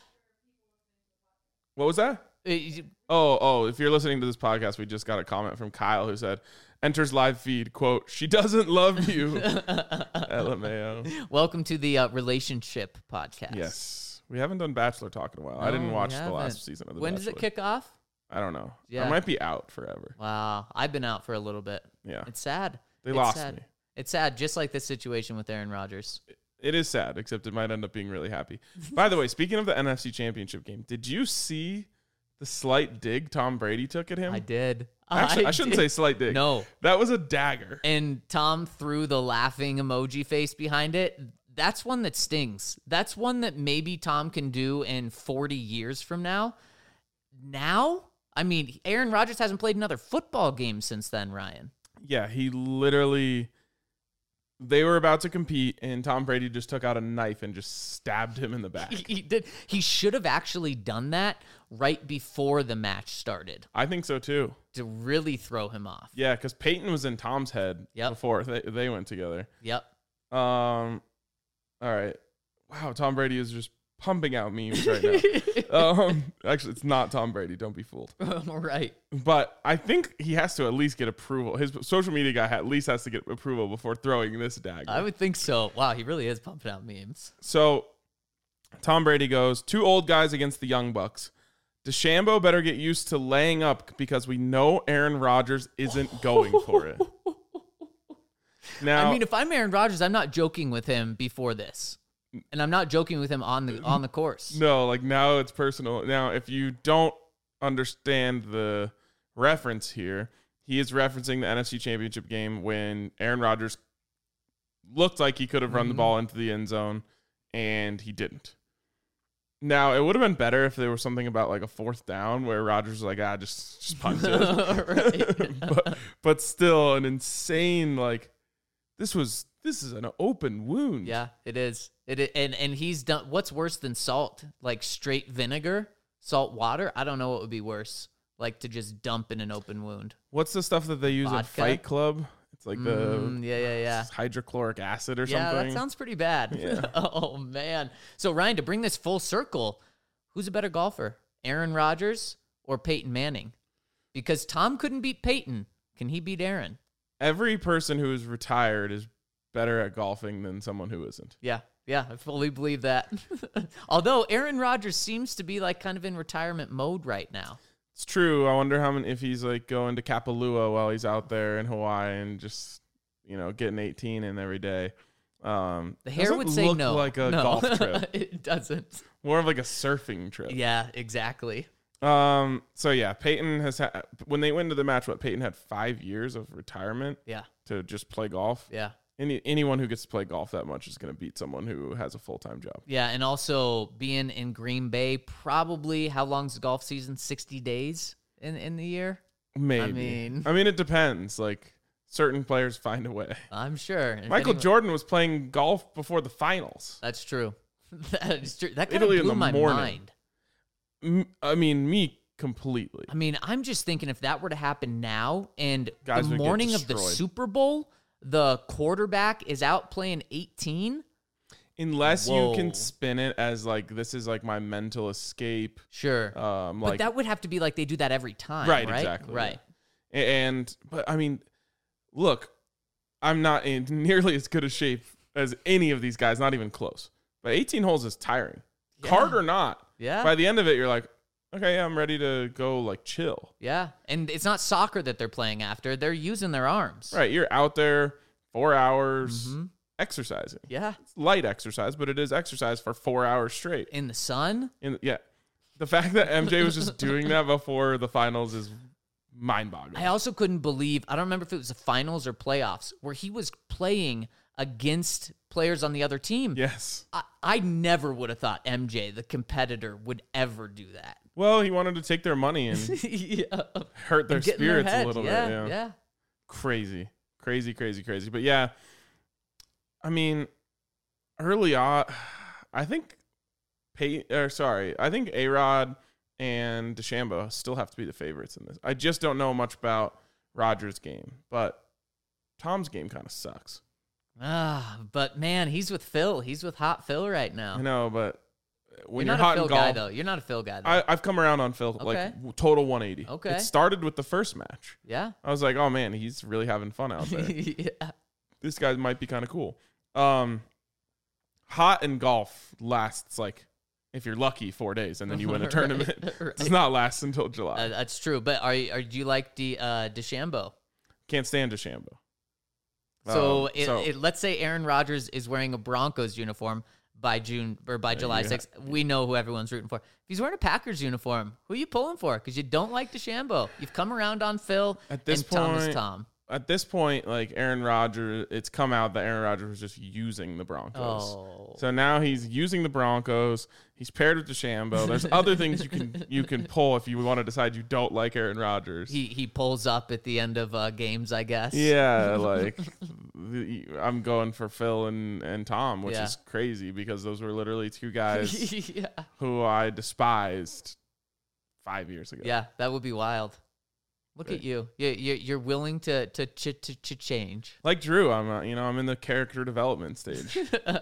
what was that? Uh, Oh, oh, if you're listening to this podcast, we just got a comment from Kyle who said, enters live feed, quote, she doesn't love you. L M A O. Welcome to the uh, relationship podcast. Yes. We haven't done Bachelor Talk in a while. I didn't No, watch we the haven't. last season of The When Bachelor. does it kick off? I don't know. Yeah. I might be out forever. Wow, I've been out for a little bit. Yeah. It's sad. They It's lost sad. me. It's sad, just like this situation with Aaron Rodgers. It is sad, except it might end up being really happy. By the way, speaking of the N F C Championship game, did you see the slight dig Tom Brady took at him? I did. Actually, I, shouldn't did. say slight dig. No. That was a dagger. And Tom threw the laughing emoji face behind it. That's one that stings. That's one that maybe Tom can do in forty years from now. Now? I mean, Aaron Rodgers hasn't played another football game since then, Ryan. Yeah, he literally, they were about to compete, and Tom Brady just took out a knife and just stabbed him in the back. He, he did. He should have actually done that right before the match started I think so, too. to really throw him off. Yeah, because Peyton was in Tom's head Yep. before they, they went together. Yep. Um, all right. Wow, Tom Brady is just pumping out memes right now. um, actually, it's not Tom Brady. Don't be fooled. Right. But I think he has to at least get approval. His social media guy at least has to get approval before throwing this dagger. I would think so. Wow, he really is pumping out memes. So Tom Brady goes, two old guys against the young bucks. DeChambeau better get used to laying up because we know Aaron Rodgers isn't going for it. Now, I mean, if I'm Aaron Rodgers, I'm not joking with him before this. And I'm not joking with him on the on the course. no, like now it's personal. Now, if you don't understand the reference here, he is referencing the N F C Championship game when Aaron Rodgers looked like he could have run the Mhm. ball into the end zone, and he didn't. Now, it would have been better if there was something about like a fourth down where Rodgers was like, ah, just, just punt it. Right. but, but still, an insane, like, this was, this is an open wound. Yeah, it is. It i- and and he's done. What's worse than salt? Like straight vinegar, salt water. I don't know what would be worse. Like to just dump in an open wound. What's the stuff that they use in Vodka? Fight Club? It's like the Mm, yeah, yeah, yeah. hydrochloric acid or Yeah, something. that sounds pretty bad. Yeah. Oh man. So Ryan, to bring this full circle, who's a better golfer, Aaron Rodgers or Peyton Manning? Because Tom couldn't beat Peyton. Can he beat Aaron? Every person who is retired is better at golfing than someone who isn't. Yeah, yeah, I fully believe that. Although Aaron Rodgers seems to be like kind of in retirement mode right now. It's true. I wonder how many, if he's like going to Kapalua while he's out there in Hawaii and just, you know, getting eighteen in every day. Um, The hair doesn't would say look no. like a No. golf trip. It doesn't. More of like a surfing trip. Yeah, exactly. Um. So yeah, Peyton has had, when they went into the match, what, Peyton had five years of retirement Yeah, to just play golf. yeah. Any anyone who gets to play golf that much is going to beat someone who has a full time job. Yeah, and also being in Green Bay, probably how long's the golf season? sixty days in in the year? Maybe. I mean, I mean, it depends. Like certain players find a way. I'm sure. If Michael anyone- Jordan was playing golf before the finals. That's true. That is true. That kind Italy of in blew the my morning. mind. M- I mean, me completely. I mean, I'm just thinking if that were to happen now and Guys the would get morning of the destroyed. Super Bowl, the quarterback is out playing eighteen. Unless Whoa. you can spin it as like this is like my mental escape. Sure. Um, but like that would have to be like they do that every time, Right, right? exactly, Right. and but I mean, look, I'm not in nearly as good a shape as any of these guys, not even close. But eighteen holes is tiring. Yeah. Card or not, Yeah. by the end of it, you're like, okay, I'm ready to go like chill. Yeah. And it's not soccer that they're playing after. They're using their arms. Right, you're out there four hours Mm-hmm. exercising. Yeah. It's light exercise, but it is exercise for four hours straight. In the sun. In yeah, the fact that M J was just doing that before the finals is mind-boggling. I also couldn't believe, I don't remember if it was the finals or playoffs, where he was playing against players on the other team. Yes. I, I never would have thought M J, the competitor, would ever do that. Well, he wanted to take their money and yeah. hurt their And get in their spirits head. a little yeah, bit. Yeah. Yeah. Crazy, crazy, crazy, crazy. But yeah, I mean, early on, I think Pay or sorry, I think A-Rod and DeChambeau still have to be the favorites in this. I just don't know much about Rodgers' game, but Tom's game kind of sucks. Ah, but man, he's with Phil. He's with Hot Phil right now. I know, but when you're you're, not hot a Phil in golf, guy, though. You're not a Phil guy, though. I, I've come around on Phil, Okay. like w- total one eighty. Okay. It started with the first match. yeah. I was like, oh man, he's really having fun out there. yeah. This guy might be kind of cool. Um, hot in golf lasts like, if you're lucky, four days, and then you win a Right, tournament. right. Does not last until July. Uh, that's true. But are, you- are do you like the uh, DeChambeau? Can't stand DeChambeau. So, Um, it, it, let's say Aaron Rodgers is wearing a Broncos uniform by June or by July you sixth. We know who everyone's rooting for. If he's wearing a Packers uniform, who are you pulling for? Because you don't like DeChambeau. You've come around on Phil At this and Thomas point- Tom. at this point, like Aaron Rodgers, it's come out that Aaron Rodgers was just using the Broncos. Oh. So now he's using the Broncos. He's paired with DeChambeau. There's other things you can you can pull if you want to decide you don't like Aaron Rodgers. He he pulls up at the end of uh, games, I guess. Yeah, like the- I'm going for Phil and, and Tom, which Yeah. is crazy because those were literally two guys yeah. who I despised five years ago. Yeah, that would be wild. Look Right. at you. You you you're willing to to ch- to, to change. Like Drew, I'm uh, you know I'm in the character development stage.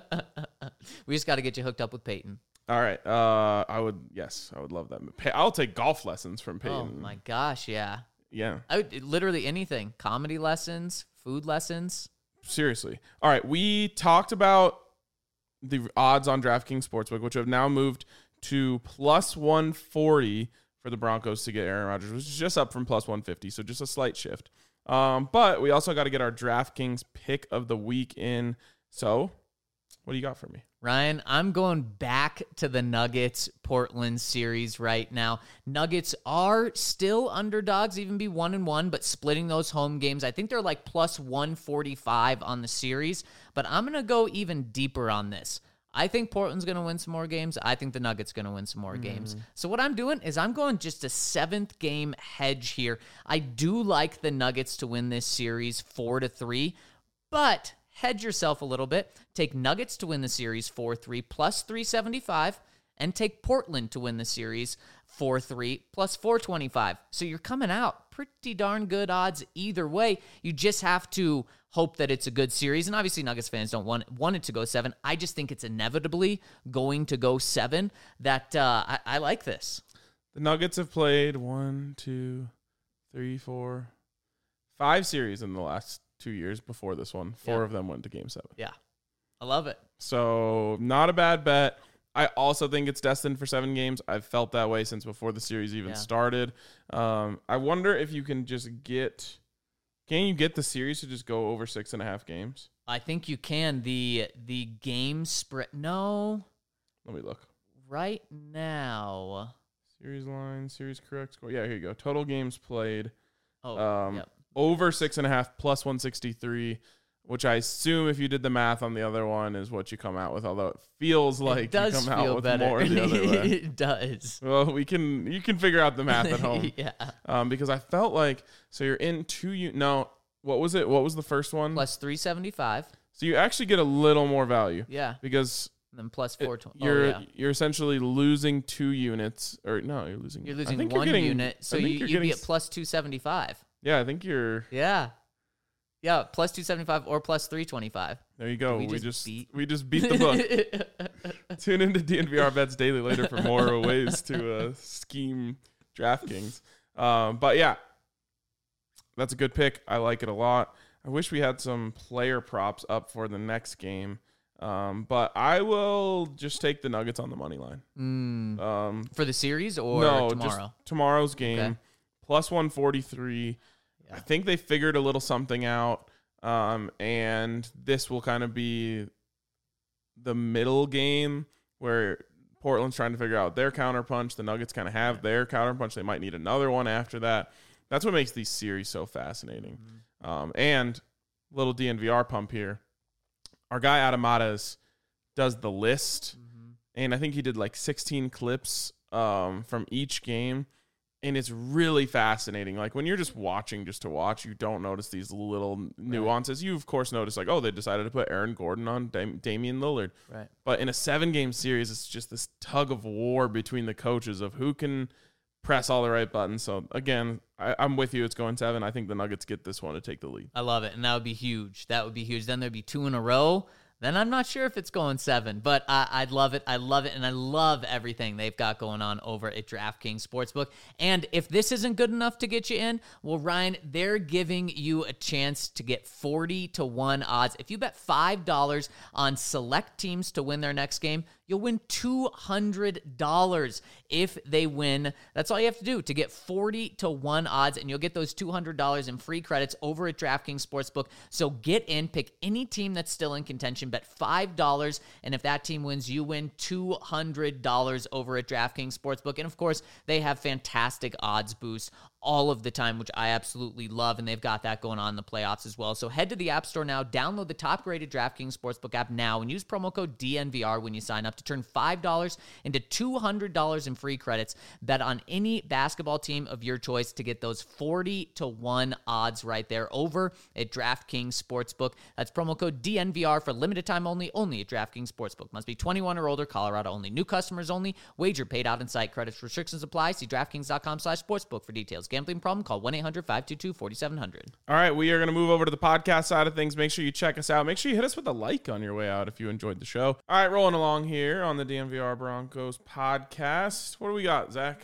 We just got to get you hooked up with Peyton. All right, uh, I would yes, I would love that. Pa- I'll take golf lessons from Oh Peyton. my gosh, yeah. Yeah, I would literally anything. Comedy lessons, food lessons. seriously. All right, we talked about the odds on DraftKings Sportsbook, which have now moved to plus one forty for the Broncos to get Aaron Rodgers, which is just up from plus one fifty, so just a slight shift. Um, but we also got to get our DraftKings pick of the week in. So, what do you got for me? Ryan, I'm going back to the Nuggets Portland series right now. Nuggets are still underdogs, even be one and one, but splitting those home games. I think they're like plus one forty-five on the series, but I'm going to go even deeper on this. I think Portland's going to win some more games. I think the Nuggets going to win some more mm. games. So what I'm doing is I'm going just a seventh game hedge here. I do like the Nuggets to win this series four to three, but hedge yourself a little bit. Take Nuggets to win the series four three plus three seventy-five, and take Portland to win the series four three plus four twenty-five. So you're coming out pretty darn good odds either way. You just have to hope that it's a good series. And obviously Nuggets fans don't want, want it to go seven. I just think it's inevitably going to go seven. That uh, I, I like this. The Nuggets have played one, two, three, four, five series in the last two years before this one. Four Yeah. of them went to game seven. Yeah, I love it. So not a bad bet. I also think it's destined for seven games. I've felt that way since before the series even Yeah. started. Um, I wonder if you can just get, can you get the series to just go over six and a half games? I think you can. The the game spread. No, Let me look. right now. Series line, series correct score. Yeah, here you go. Total games played. Oh, Um, yep. Over six and a half plus one sixty-three which I assume if you did the math on the other one is what you come out with, although it feels like it does you come feel out with better. more the other way. It does. Well, we can you can figure out the math at home. Yeah. Um, because I felt like so you're in two u- no, what was it? What was the first one? Plus three seventy-five. So you actually get a little more value. Yeah. Because And then plus it- four twenty. you're oh, yeah. you're essentially losing two units or no, you're losing You're I losing think one you're getting, unit, so I think you, you're you'd be getting at plus two seventy-five. Yeah, I think you're Yeah. Yeah, plus two seventy-five or plus three twenty-five. there you go. we We, just just beat- we just beat the book. Tune into D N V R Bets Daily later for more ways to uh, scheme DraftKings. Um, but yeah, that's a good pick. I like it a lot. I wish we had some player props up for the next game. Um, but I will just take the Nuggets on the money line. Mm. Um, For the series or no, tomorrow? just tomorrow's game. Okay. Plus one forty-three. Yeah. I think they figured a little something out. Um, and this will kind of be the middle game where Portland's trying to figure out their counterpunch. The Nuggets kind of have their counterpunch. They might need another one after that. That's what makes these series so fascinating. Mm-hmm. Um, and little D N V R pump here. Our guy Adamadas does the list, Mm-hmm. and I think he did like sixteen clips um, from each game. And it's really fascinating. Like when you're just watching just to watch, you don't notice these little nuances. You, of course, notice like, oh, they decided to put Aaron Gordon on Dam- Damian Lillard. Right. But in a seven-game series, it's just this tug of war between the coaches of who can press all the right buttons. So, again, I, I'm with you. It's going seven. I think the Nuggets get this one to take the lead. I love it, and that would be huge. That would be huge. Then there'd be two in a row. Then I'm not sure if it's going seven, but I, I'd love it. I love it, and I love everything they've got going on over at DraftKings Sportsbook. And if this isn't good enough to get you in, well, Ryan, they're giving you a chance to get forty to one odds. If you bet five dollars on select teams to win their next game, you'll win two hundred dollars if they win. That's all you have to do to get forty to one odds, and you'll get those two hundred dollars in free credits over at DraftKings Sportsbook. So get in, pick any team that's still in contention, bet five dollars, and if that team wins, you win two hundred dollars over at DraftKings Sportsbook. And of course, they have fantastic odds boosts all of the time, which I absolutely love, and they've got that going on in the playoffs as well. So head to the App Store now, download the top-rated DraftKings Sportsbook app now, and use promo code D N V R when you sign up to turn five dollars into two hundred dollars in free credits. Bet on any basketball team of your choice to get those forty to one odds right there over at DraftKings Sportsbook. That's promo code D N V R for limited time only, only at DraftKings Sportsbook. Must be twenty-one or older, Colorado only. New customers only. Wager paid out in site. Credits restrictions apply. See DraftKings.com slash sportsbook for details. Gambling problem? Call one eight hundred five two two four seven zero zero. All right, we are going to move over to the podcast side of things. Make sure you check us out. Make sure you hit us with a like on your way out if you enjoyed the show. All right, rolling along here on the D N V R Broncos podcast. What do we got, Zach?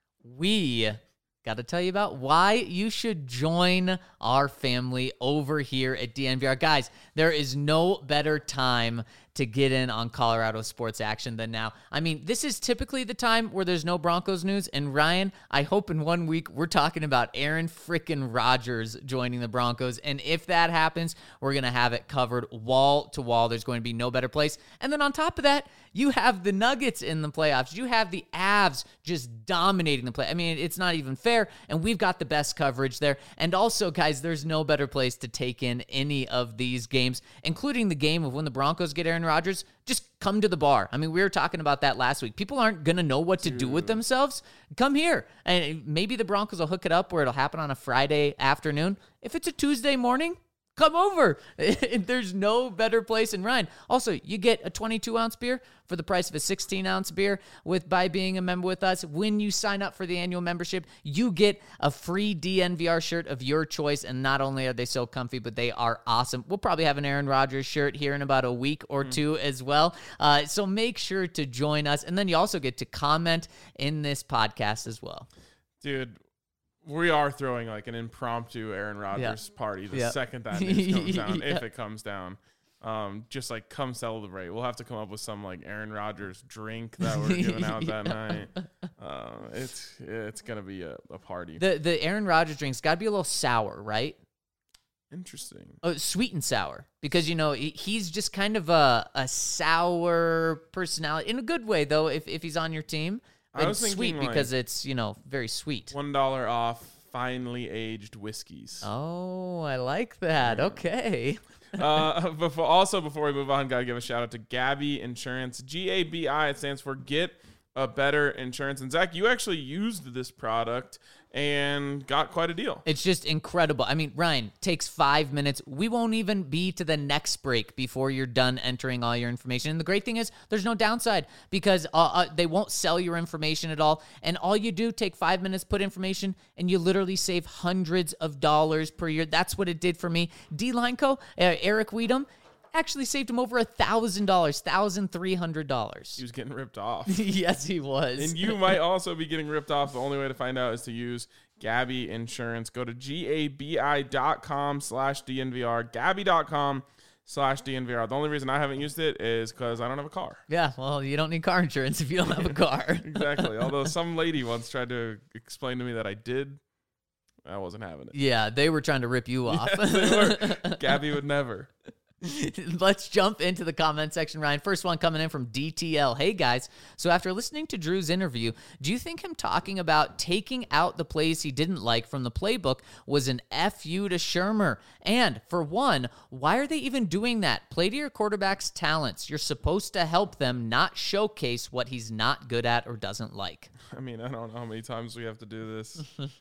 We got to tell you about why you should join our family over here at D N V R. Guys, there is no better time to get in on Colorado sports action than now. I mean, this is typically the time where there's no Broncos news. And Ryan, I hope in one week we're talking about Aaron frickin' Rodgers joining the Broncos. And if that happens, we're going to have it covered wall to wall. There's going to be no better place. And then on top of that, you have the Nuggets in the playoffs. You have the Avs just dominating the play. I mean, it's not even fair. And we've got the best coverage there. And also, guys, there's no better place to take in any of these games, including the game of when the Broncos get Aaron Rodgers. Just come to the bar. I mean, we were talking about that last week. People aren't going to know what to do with themselves. Come here. And maybe the Broncos will hook it up where it'll happen on a Friday afternoon. If it's a Tuesday morning, come over. There's no better place. And Ryan, also, you get a twenty-two ounce beer for the price of a sixteen ounce beer with by being a member with us. When you sign up for the annual membership, you get a free D N V R shirt of your choice. And not only are they so comfy, but they are awesome. We'll probably have an Aaron Rodgers shirt here in about a week or mm. two as well. Uh, so make sure to join us. And then you also get to comment in this podcast as well. Dude, we are throwing like an impromptu Aaron Rodgers yeah. party the yeah. second that news comes down, yeah. if it comes down. Um, just like come celebrate. We'll have to come up with some like Aaron Rodgers drink that we're giving out yeah. that night. Uh, it's it's gonna be a, a party. The the Aaron Rodgers drink's got to be a little sour, right? Interesting. Oh, sweet and sour, because you know he's just kind of a a sour personality in a good way, though. If if he's on your team. I was it's thinking sweet because like it's, you know, very sweet. One dollar off finely aged whiskeys. Oh, I like that. Okay. uh, before, also, before we move on, got to give a shout out to Gabi Insurance. G A B I, it stands for Get a Better Insurance. And Zach, you actually used this product and got quite a deal. It's just incredible. I mean, Ryan, takes five minutes. We won't even be to the next break before you're done entering all your information. And the great thing is there's no downside because uh, uh, they won't sell your information at all. And all you do, take five minutes, put information, and you literally save hundreds of dollars per year. That's what it did for me. D-Line Co., uh, Eric Weedham, actually saved him over a thousand dollars, thousand three hundred dollars. He was getting ripped off. Yes, he was. And you might also be getting ripped off. The only way to find out is to use Gabi Insurance. Go to gabi.com slash DNVR, gabi.com slash DNVR. The only reason I haven't used it is because I don't have a car. Yeah, well, you don't need car insurance if you don't have a car. Exactly. Although some lady once tried to explain to me that I did, I wasn't having it. Yeah, they were trying to rip you off. Yes, they were. Gabi would never. Let's jump into the comment section, Ryan. First one coming in from D T L. Hey, guys. So after listening to Drew's interview, do you think him talking about taking out the plays he didn't like from the playbook was an F you to Shermer? And for one, why are they even doing that? Play to your quarterback's talents. You're supposed to help them, not showcase what he's not good at or doesn't like. I mean, I don't know how many times we have to do this.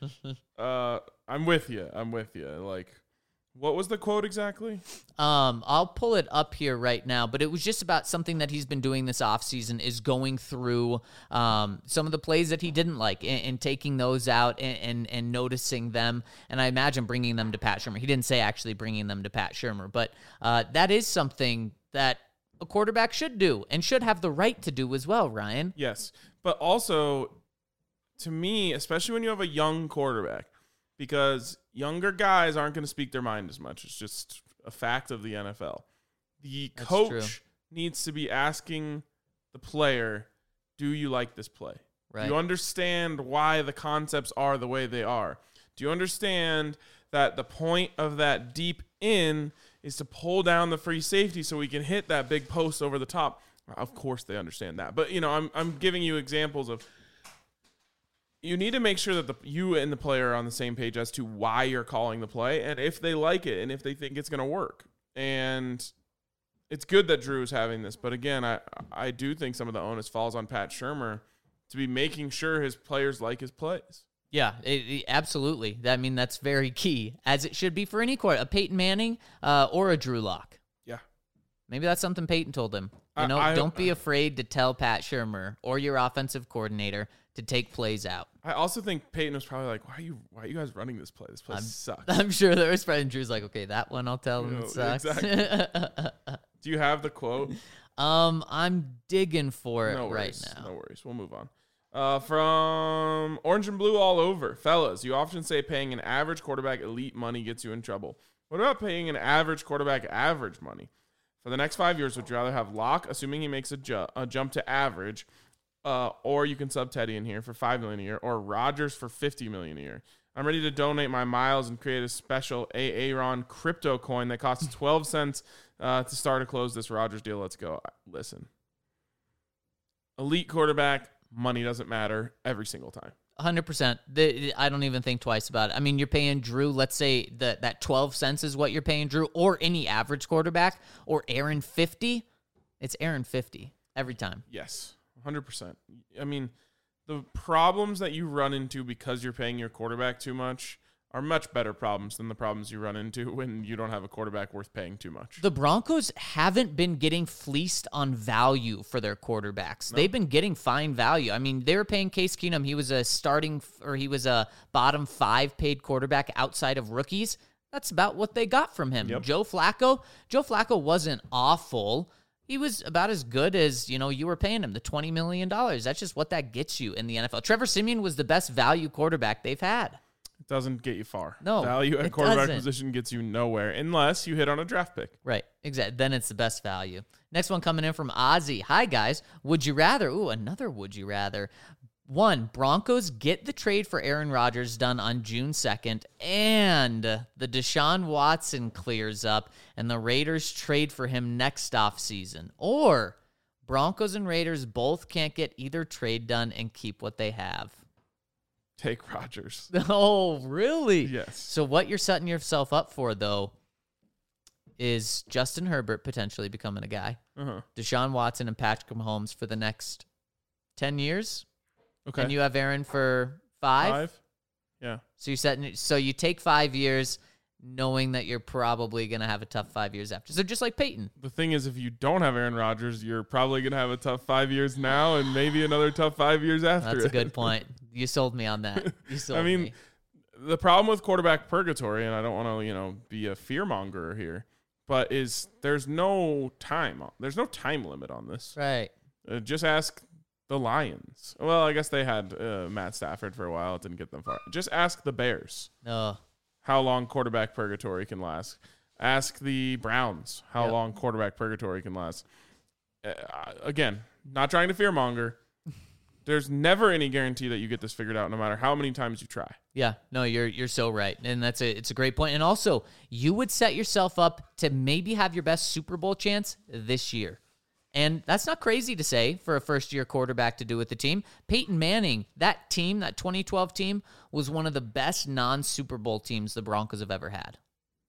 uh, I'm with you. I'm with you. Like, what was the quote exactly? Um, I'll pull it up here right now, but it was just about something that he's been doing this offseason is going through um, some of the plays that he didn't like and, and taking those out and, and, and noticing them. And I imagine bringing them to Pat Shermer. He didn't say actually bringing them to Pat Shermer, but uh, that is something that a quarterback should do and should have the right to do as well, Ryan. Yes. But also, to me, especially when you have a young quarterback, because younger guys aren't going to speak their mind as much. It's just a fact of the N F L. The That's coach true. needs to be asking the player, do you like this play? Right. Do you understand why the concepts are the way they are? Do you understand that the point of that deep in is to pull down the free safety so we can hit that big post over the top? Of course they understand that. But, you know, I'm I'm giving you examples of you need to make sure that the you and the player are on the same page as to why you're calling the play and if they like it and if they think it's going to work. And it's good that Drew is having this. But, again, I, I do think some of the onus falls on Pat Shermer to be making sure his players like his plays. Yeah, it, it- absolutely. I mean, that's very key, as it should be for any quarter, a Peyton Manning uh, or a Drew Lock. Yeah. Maybe that's something Peyton told him. You I- know, I- don't be afraid to tell Pat Shermer or your offensive coordinator to take plays out. I also think Peyton was probably like, why are you why are you guys running this play? This play I'm- sucks. I'm sure there was Fred and Drew's like, okay, that one I'll tell him You know, it sucks. Do you have the quote? um, I'm digging for it No right worries. now. No worries. We'll move on. Uh, from Orange and Blue all over. Fellas, you often say paying an average quarterback elite money gets you in trouble. What about paying an average quarterback average money? For the next five years, would you rather have Locke, assuming he makes a, ju- a jump to average, uh, or you can sub Teddy in here for five million dollars a year, or Rodgers for fifty million dollars a year? I'm ready to donate my miles and create a special Aaron crypto coin that costs twelve cents uh, to start or close this Rodgers deal. Let's go. Listen. Elite quarterback, money doesn't matter every single time. one hundred percent. The, I don't even think twice about it. I mean, you're paying Drew, let's say that that twelve cents is what you're paying Drew, or any average quarterback, or Aaron fifty. It's Aaron fifty every time. Yes, one hundred percent. I mean, the problems that you run into because you're paying your quarterback too much are much better problems than the problems you run into when you don't have a quarterback worth paying too much. The Broncos haven't been getting fleeced on value for their quarterbacks. No. They've been getting fine value. I mean, they were paying Case Keenum. He was a starting, or he was a bottom five paid quarterback outside of rookies. That's about what they got from him. Yep. Joe Flacco, Joe Flacco wasn't awful. He was about as good as, you know, you were paying him, the twenty million dollars. That's just what that gets you in the N F L. Trevor Siemian was the best value quarterback they've had. It doesn't get you far. No, Value at it quarterback doesn't. position gets you nowhere unless you hit on a draft pick. Right, exactly. Then it's the best value. Next one coming in from Ozzy. Hi, guys. Would you rather? Ooh, another would you rather. One, Broncos get the trade for Aaron Rodgers done on June second, and the Deshaun Watson clears up, and the Raiders trade for him next offseason. Or Broncos and Raiders both can't get either trade done and keep what they have. take Rodgers. Oh, really? Yes. So what you're setting yourself up for, though, is Justin Herbert potentially becoming a guy, Uh-huh. Deshaun Watson and Patrick Mahomes for the next ten years, Okay. and you have Aaron for five. Five? Yeah. So you setting. So you take five years, knowing that you're probably gonna have a tough five years after. So just like Peyton. The thing is, if you don't have Aaron Rodgers, you're probably going to have a tough five years now and maybe another tough five years after. That's a it. good point. You sold me on that. You sold I mean, me. the problem with quarterback purgatory, and I don't want to, you know, be a fearmonger here, but is there's no time. There's no time limit on this. Right. Uh, just ask the Lions. Well, I guess they had uh, Matt Stafford for a while. It didn't get them far. Just ask the Bears No. how long quarterback purgatory can last. Ask the Browns how Yep. long quarterback purgatory can last. Uh, again, not trying to fearmonger. There's never any guarantee that you get this figured out, no matter how many times you try. Yeah, no, you're you're so right, and that's a it's a great point. And also, you would set yourself up to maybe have your best Super Bowl chance this year, and that's not crazy to say for a first year quarterback to do with the team. Peyton Manning, that team, that twenty twelve team, was one of the best non Super Bowl teams the Broncos have ever had,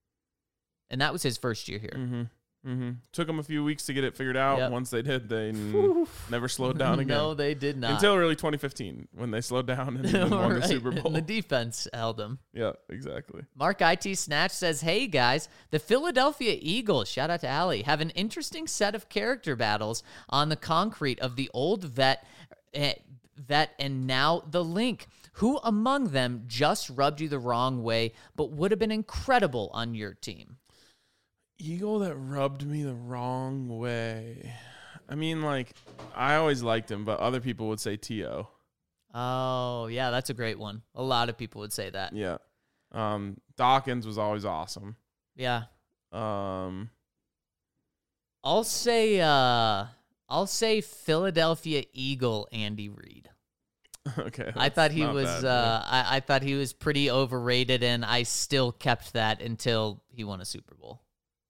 and that was his first year here. Mm-hmm. Mm-hmm. Took them a few weeks to get it figured out. Yep. Once they did, they n- never slowed down again. No, they did not. Until early twenty fifteen, when they slowed down and then won the Right, Super Bowl. and the defense held them. Yeah, exactly. Mark I T Snatch says, hey guys, the Philadelphia Eagles, shout out to Allie, have an interesting set of character battles on the concrete of the old vet, eh, vet and now the Link. Who among them just rubbed you the wrong way, but would have been incredible on your team? Eagle that rubbed me the wrong way. I mean, like, I always liked him, but other people would say T O. Oh, yeah, that's a great one. A lot of people would say that. Yeah. Um, Dawkins was always awesome. Yeah. Um, I'll say uh I'll say Philadelphia Eagle Andy Reid. okay. I thought he not was bad, uh I, I thought he was pretty overrated, and I still kept that until he won a Super Bowl.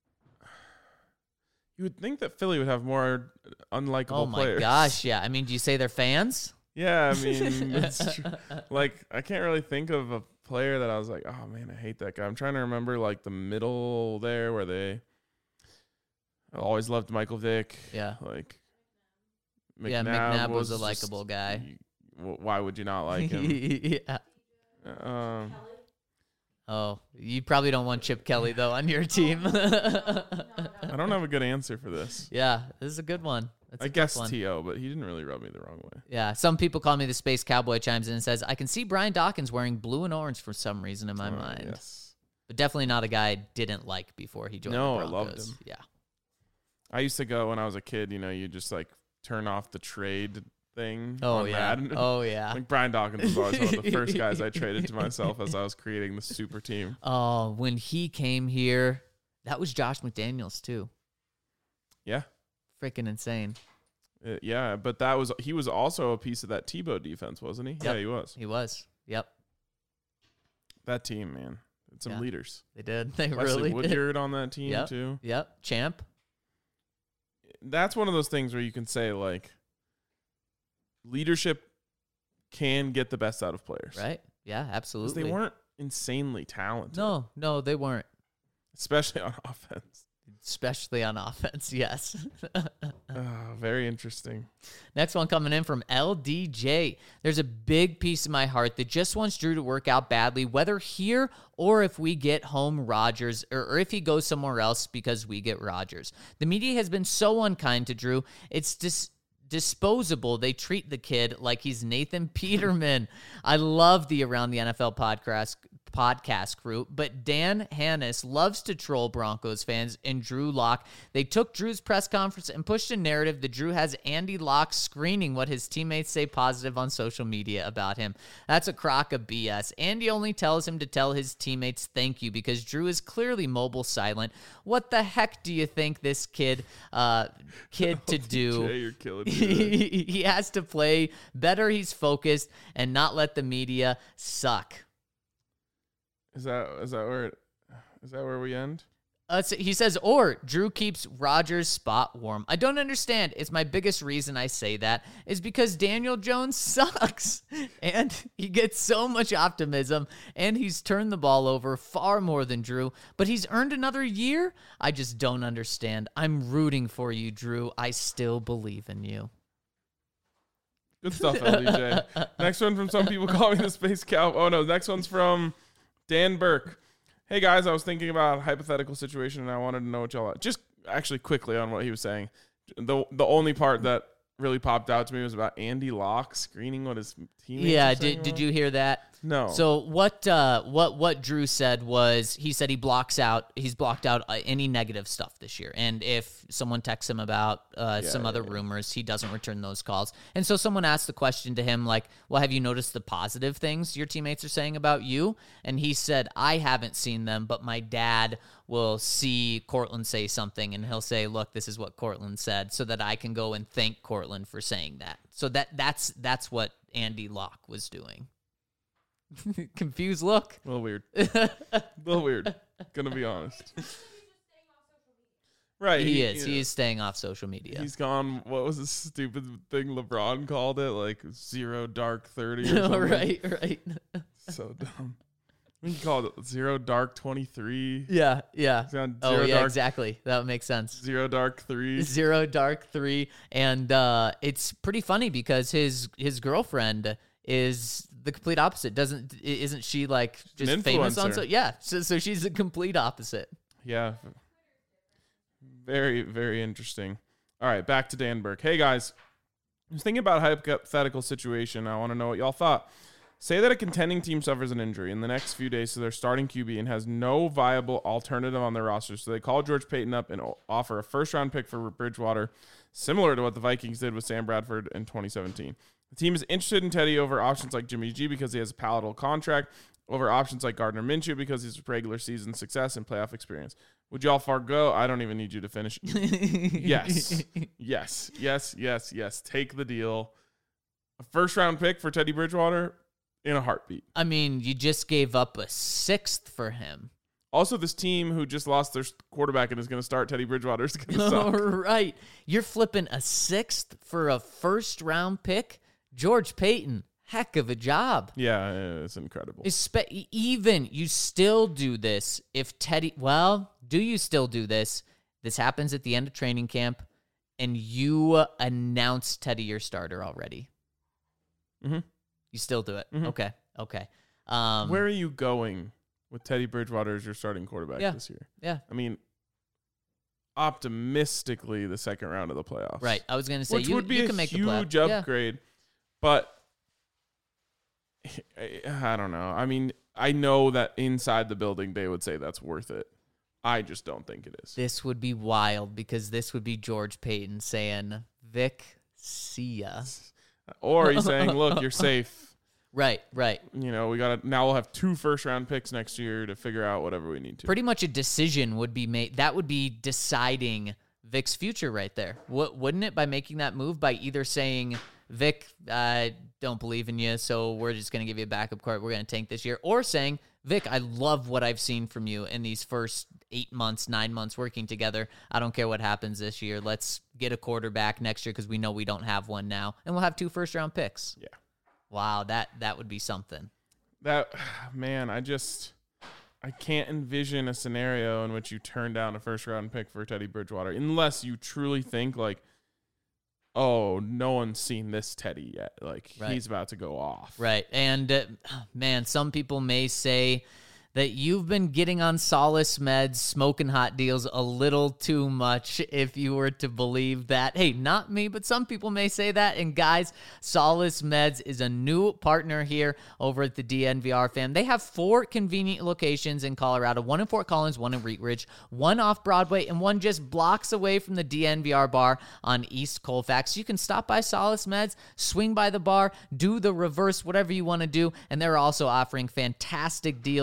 You would think that Philly would have more unlikable Oh my players. gosh, yeah. I mean, do you say they're fans? Yeah, I mean, it's true. Like, I can't really think of a player that I was like, oh man, I hate that guy. I'm trying to remember like the middle there where they I always loved Michael Vick. Yeah. Like, Yeah, McNabb was a likable just- guy. you- wh- why would you not like him? yeah. um, Oh, you probably don't want Chip Kelly though on your team. I don't have a good answer for this. Yeah, this is a good one. That's a I tough guess one. T O, but he didn't really rub me the wrong way. Yeah, some people call me the Space Cowboy. Chimes in and says, I can see Brian Dawkins wearing blue and orange for some reason in my Oh, mind. Yes. But definitely not a guy I didn't like before he joined No, the I Broncos. loved him. Yeah. I used to go when I was a kid, you know, you just like turn off the trade thing. Oh, on yeah. Madden. Oh, yeah. Like Brian Dawkins was always one of the first guys I traded to myself as I was creating the super team. Oh, when he came here, that was Josh McDaniels too. Yeah. Freaking insane. Uh, yeah, but that was he was also a piece of that Tebow defense, wasn't he? Yep. Yeah, he was. He was. Yep. That team, man. It's some Yeah. leaders. They did. They Leslie really did. Woodyard on that team Yep. too. Yep. Champ. That's one of those things where you can say like leadership can get the best out of players. Right? Yeah, 'Cause absolutely. they weren't insanely talented. No, no, they weren't. Especially on offense. Especially on offense, yes. Oh, very interesting. Next one coming in from L D J. There's a big piece of my heart that just wants Drew to work out badly, whether here or if we get home Rodgers, or, or if he goes somewhere else because we get Rodgers. The media has been so unkind to Drew. It's dis- disposable. They treat the kid like he's Nathan Peterman. I love the Around the N F L podcast podcast crew, but Dan Hannis loves to troll Broncos fans and Drew Lock. They took Drew's press conference and pushed a narrative that Drew has Andy Lock screening what his teammates say positive on social media about him. That's a crock of B S. Andy only tells him to tell his teammates thank you because Drew is clearly mobile silent. What the heck do you think this kid uh kid to do? Jay, you're killing me. He has to play better. He's focused and not let the media suck. Is that is that where it, is that where we end? Uh, so he says, or Drew keeps Rodgers' spot warm. I don't understand. It's my biggest reason I say that is because Daniel Jones sucks. And he gets so much optimism, and he's turned the ball over far more than Drew, but he's earned another year? I just don't understand. I'm rooting for you, Drew. I still believe in you. Good stuff, L D J. Next one from some people call me the Space Cow. Oh, no. Next one's from Dan Burke. Hey, guys, I was thinking about a hypothetical situation, and I wanted to know what y'all... Just actually quickly on what he was saying. The the only part that really popped out to me was about Andy Locke screening what his teammates Yeah, were saying did, did about. you hear that? No. So what uh, what what Drew said was he said he blocks out he's blocked out uh, any negative stuff this year, and if someone texts him about uh, Yeah, some yeah, other yeah. rumors, he doesn't return those calls. And so someone asked the question to him like, "Well, have you noticed the positive things your teammates are saying about you?" And he said, "I haven't seen them, but my dad will see Cortland say something, and he'll say, 'Look, this is what Cortland said,' so that I can go and thank Cortland for saying that." So that that's that's what Andy Locke was doing. Confused look. A little weird. A little weird. Gonna be honest. Right. He is. yeah. He is staying off social media. He's gone. What was the stupid thing LeBron called it? Like zero dark thirty or Oh, something. right, right. So dumb. We can call it zero dark twenty-three. Yeah, yeah. Zero Oh, yeah, dark, exactly. That would make sense. Zero dark three. Zero Dark Three, and uh, it's pretty funny because his his girlfriend is the complete opposite. Doesn't isn't she like just An famous on influencer. so? Yeah, so so she's the complete opposite. Yeah. Very, very interesting. All right, back to Dan Burke. Hey, guys. I was thinking about a hypothetical situation. I want to know what y'all thought. Say that a contending team suffers an injury in the next few days to their starting Q B and has no viable alternative on their roster. So they call George Payton up and o- offer a first-round pick for Bridgewater, similar to what the Vikings did with Sam Bradford in twenty seventeen. The team is interested in Teddy over options like Jimmy G because he has a palatable contract, over options like Gardner Minshew because he's regular season success and playoff experience. Would y'all forgo? I don't even need you to finish. Yes. Yes. Yes. Yes. Yes. Take the deal. A first round pick for Teddy Bridgewater in a heartbeat. I mean, you just gave up a sixth for him. Also, this team who just lost their quarterback and is going to start Teddy Bridgewater is going to All suck. right. You're flipping a sixth for a first round pick? George Payton, heck of a job. Yeah, it's incredible. Espe- even you still do this if Teddy, well, do you still do this? This happens at the end of training camp and you announce Teddy your starter already. Mm-hmm. You still do it. Mhm. Okay. Okay. Um, Where are you going with Teddy Bridgewater as your starting quarterback Yeah. this year? Yeah. I mean, optimistically, the second round of the playoffs. Right. I was going to say, Which you, would be you a can make the play. huge Yeah. upgrade, but I, I don't know. I mean, I know that inside the building they would say that's worth it. I just don't think it is. This would be wild because this would be George Payton saying, Vic, see ya. Or he's saying, "Look, you're safe. Right, right. You know, we got to now. We'll have two first round picks next year to figure out whatever we need to." Pretty much a decision would be made. That would be deciding Vic's future right there. What wouldn't it, by making that move, by either saying, Vic, I don't believe in you, so we're just going to give you a backup card. We're going to tank this year. Or saying, Vic, I love what I've seen from you in these first eight months, nine months working together. I don't care what happens this year. Let's get a quarterback next year because we know we don't have one now. And we'll have two first-round picks. Yeah. Wow, that, that would be something. That man, I just I can't envision a scenario in which you turn down a first round pick for Teddy Bridgewater unless you truly think like, oh, no one's seen this Teddy yet. Like Right. he's about to go off. Right. And, uh, man, some people may say that you've been getting on Solace Meds, smoking hot deals a little too much if you were to believe that. Hey, not me, but some people may say that. And guys, Solace Meds is a new partner here over at the D N V R fam. They have four convenient locations in Colorado, one in Fort Collins, one in Wheat Ridge, one off Broadway, and one just blocks away from the D N V R bar on East Colfax. You can stop by Solace Meds, swing by the bar, do the reverse, whatever you want to do. And they're also offering fantastic deals this month.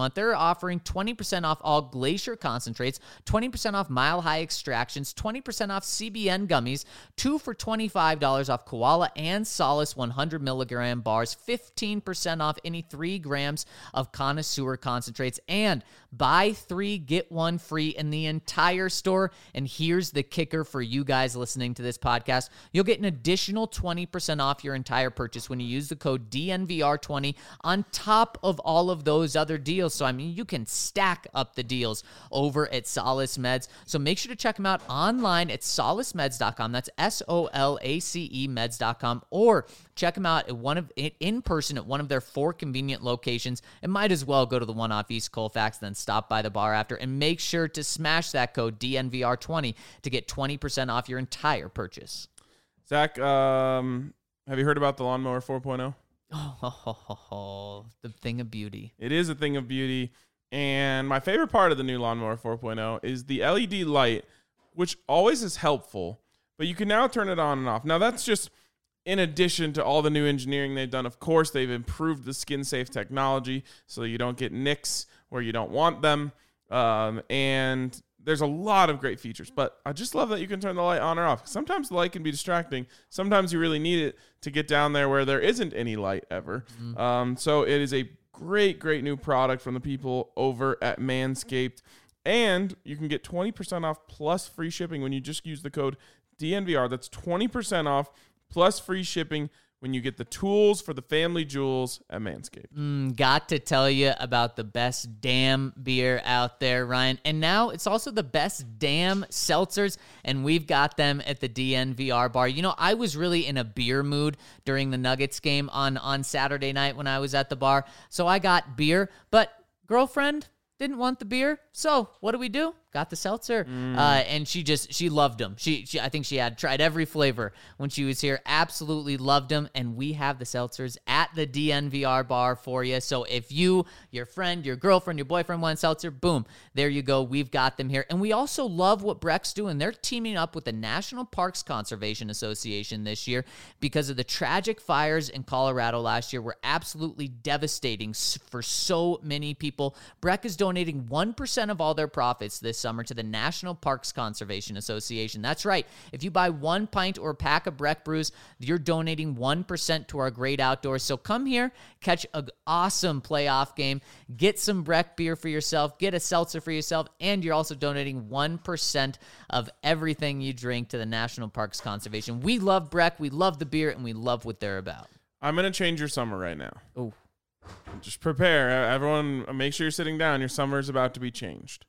month, they're offering twenty percent off all Glacier concentrates, twenty percent off Mile High extractions, twenty percent off C B N gummies, two for twenty-five dollars off Koala and Solace one hundred milligram bars, fifteen percent off any three grams of Connoisseur concentrates, and buy three, get one free in the entire store. And here's the kicker for you guys listening to this podcast. You'll get an additional twenty percent off your entire purchase when you use the code D N V R twenty on top of all of those other deals. So, I mean, you can stack up the deals over at Solace Meds. So make sure to check them out online at solace meds dot com. That's S O L A C E meds dot com. Or check them out at one of in person at one of their four convenient locations. And might as well go to the one off East Colfax, then stop by the bar after. And make sure to smash that code D N V R twenty to get twenty percent off your entire purchase. Zach, um, have you heard about the Lawnmower four point oh? Oh, ho, ho, ho, ho. The thing of beauty. It is a thing of beauty. And my favorite part of the new Lawnmower four point oh is the L E D light, which always is helpful, but you can now turn it on and off. Now, that's just in addition to all the new engineering they've done. Of course, they've improved the skin-safe technology so you don't get nicks where you don't want them. Um, and there's a lot of great features, but I just love that you can turn the light on or off. Sometimes the light can be distracting. Sometimes you really need it to get down there where there isn't any light ever. Mm-hmm. Um, so it is a great, great new product from the people over at Manscaped. And you can get twenty percent off plus free shipping when you just use the code D N V R. That's twenty percent off plus free shipping when you get the tools for the family jewels at Manscaped. Mm, got to tell you about the best damn beer out there, Ryan. And now it's also the best damn seltzers, and we've got them at the D N V R bar. You know, I was really in a beer mood during the Nuggets game on, on Saturday night when I was at the bar, so I got beer, but girlfriend didn't want the beer, so what do we do? Got the seltzer, mm. uh, and she just, she loved them. She, she, I think she had tried every flavor when she was here, absolutely loved them, and we have the seltzers at the D N V R bar for you. So if you, your friend, your girlfriend, your boyfriend want seltzer, boom, there you go. We've got them here. And we also love what Breck's doing. They're teaming up with the National Parks Conservation Association this year because of the tragic fires in Colorado last year were absolutely devastating for so many people. Breck is donating one percent of all their profits this summer to the National Parks Conservation Association. That's right. If you buy one pint or pack of Breck brews, you're donating one percent to our great outdoors. So come here, catch an awesome playoff game, get some Breck beer for yourself, get a seltzer for yourself, and you're also donating one percent of everything you drink to the National Parks Conservation. We love Breck, we love the beer, and we love what they're about. I'm going to change your summer right now. Oh. Just prepare. Everyone, make sure you're sitting down. Your summer is about to be changed.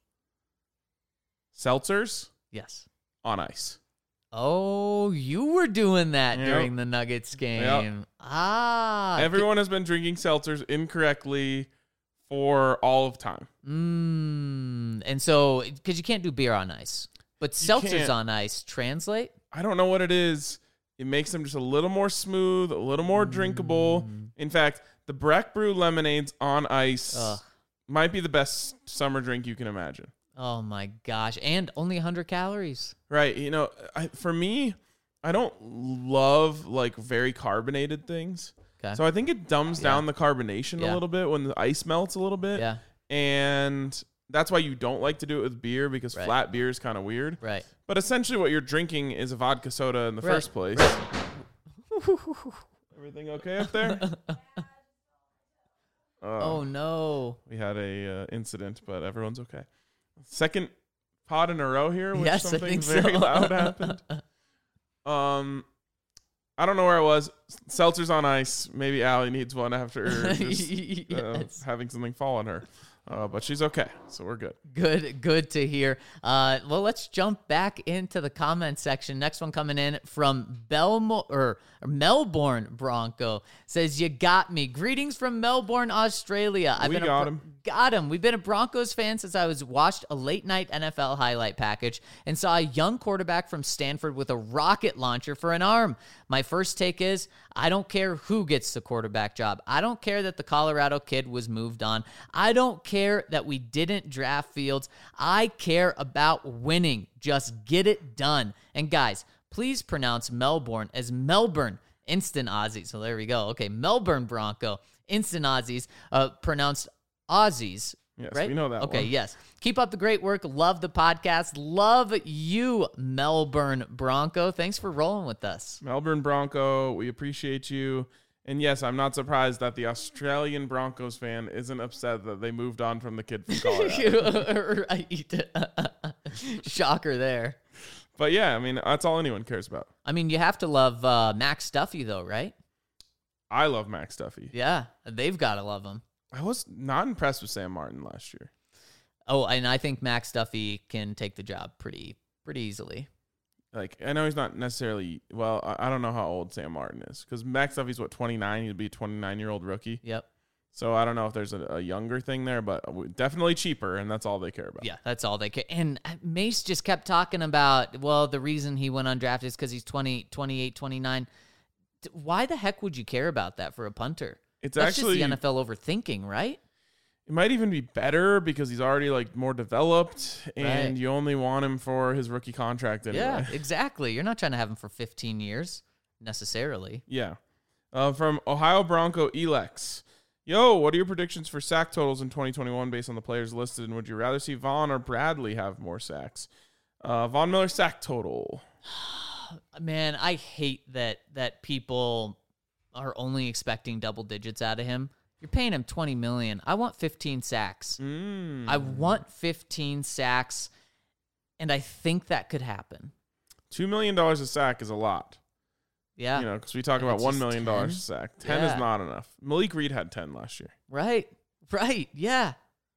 Seltzers? Yes. On ice. Oh, you were doing that yep. during the Nuggets game. Yep. Ah. Everyone has been drinking seltzers incorrectly for all of time. Mm, and so, because you can't do beer on ice. But seltzers on ice translate? I don't know what it is. It makes them just a little more smooth, a little more mm. drinkable. In fact, the Breck Brew lemonades on ice Ugh. might be the best summer drink you can imagine. Oh, my gosh. And only one hundred calories. Right. You know, I, for me, I don't love, like, very carbonated things. Okay. So I think it dumbs yeah. down the carbonation yeah. a little bit when the ice melts a little bit. Yeah. And that's why you don't like to do it with beer, because right. flat beer is kind of weird. Right. But essentially what you're drinking is a vodka soda in the right. first place. Everything okay up there? Uh, oh, no. We had a uh, incident, but everyone's okay. Second pod in a row here, which yes, something very so. loud happened. Um, I don't know where it was. Seltzers on ice. Maybe Allie needs one after just, yes. uh, having something fall on her. Uh, but she's okay, so we're good. Good, good to hear. Uh, well, let's jump back into the comment section. Next one coming in from Belmo or, or Melbourne Bronco says, "You got me. Greetings from Melbourne, Australia. I've we been got a, him. Got him. We've been a Broncos fan since I was watched a late night N F L highlight package and saw a young quarterback from Stanford with a rocket launcher for an arm. My first take is, I don't care who gets the quarterback job. I don't care that the Colorado kid was moved on. I don't care that we didn't draft Fields. I care about winning. Just get it done. And guys, please pronounce Melbourne as Melbourne. Instant Aussies. So there we go. Okay, Melbourne Bronco. Instant Aussies. Uh, pronounced Aussies Yes, right? we know that Okay, one. yes. Keep up the great work. Love the podcast. Love you, Melbourne Bronco. Thanks for rolling with us. Melbourne Bronco, we appreciate you. And yes, I'm not surprised that the Australian Broncos fan isn't upset that they moved on from the kid from Colorado. Right. Shocker there. But yeah, I mean, that's all anyone cares about. I mean, you have to love uh, Max Duffy, though, right? I love Max Duffy. Yeah, they've got to love him. I was not impressed with Sam Martin last year. Oh, and I think Max Duffy can take the job pretty pretty easily. Like, I know he's not necessarily, well, I, I don't know how old Sam Martin is. Because Max Duffy's, what, twenty-nine? He'd be a twenty-nine-year-old rookie. Yep. So I don't know if there's a, a younger thing there, but definitely cheaper, and that's all they care about. Yeah, that's all they care. And Mace just kept talking about, well, the reason he went undrafted is because he's twenty, twenty-eight, twenty-nine. Why the heck would you care about that for a punter? It's That's actually just the N F L overthinking, right? It might even be better because he's already like more developed, and Right. you only want him for his rookie contract anyway. Yeah, exactly. You're not trying to have him for fifteen years necessarily. Yeah. Uh, from Ohio Bronco Elex. Yo, what are your predictions for sack totals in twenty twenty-one based on the players listed? And would you rather see Vaughn or Bradley have more sacks? Uh, Von Miller sack total. Man, I hate that that people are only expecting double digits out of him. You're paying him twenty million dollars. I want fifteen sacks. Mm. I want fifteen sacks, and I think that could happen. two million dollars a sack is a lot. Yeah. You know, because we talk And about it's one just million dollars a ten? sack. ten Yeah. is not enough. Malik Reed had ten last year. Right. Right. Yeah.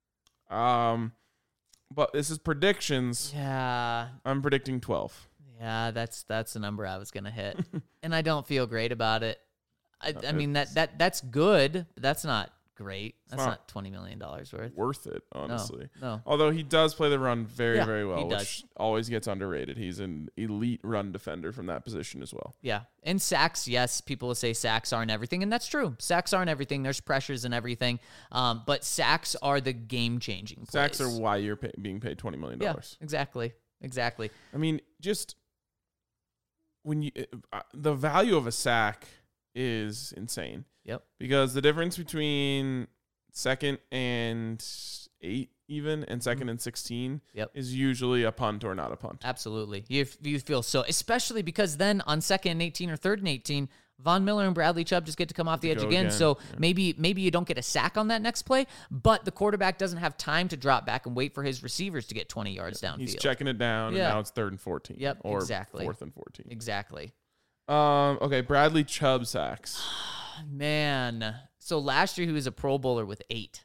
Um, But this is predictions. Yeah. I'm predicting twelve. Yeah, that's that's the number I was gonna hit. And I don't feel great about it. I, I mean that that that's good, but that's not great. That's not- not, twenty million dollars worth. Worth it, honestly. No. Although he does play the run very, Yeah, very well, he which does. always gets underrated. He's an elite run defender from that position as well. Yeah. And sacks, yes, people will say sacks aren't everything, and that's true. Sacks aren't everything. There's pressures and everything. Um, but sacks are the game changing plays. Sacks are why you're pay- being paid twenty million Yeah, dollars. exactly. Exactly. I mean, just when you uh, the value of a sack is insane. Yep. Because the difference between second and eight, even, and 2nd and sixteen, Yep. is usually a punt or not a punt. Absolutely. You you feel so, especially because then on second and eighteen or third and eighteen, Von Miller and Bradley Chubb just get to come off the edge Go again. again, So yeah. maybe maybe you don't get a sack on that next play, but the quarterback doesn't have time to drop back and wait for his receivers to get twenty yards downfield. He's checking it down, Yeah. and now it's third and fourteen. Yep, or exactly. fourth and fourteen. Exactly. Um. Okay, Bradley Chubb sacks. Man. So last year he was a Pro Bowler with eight.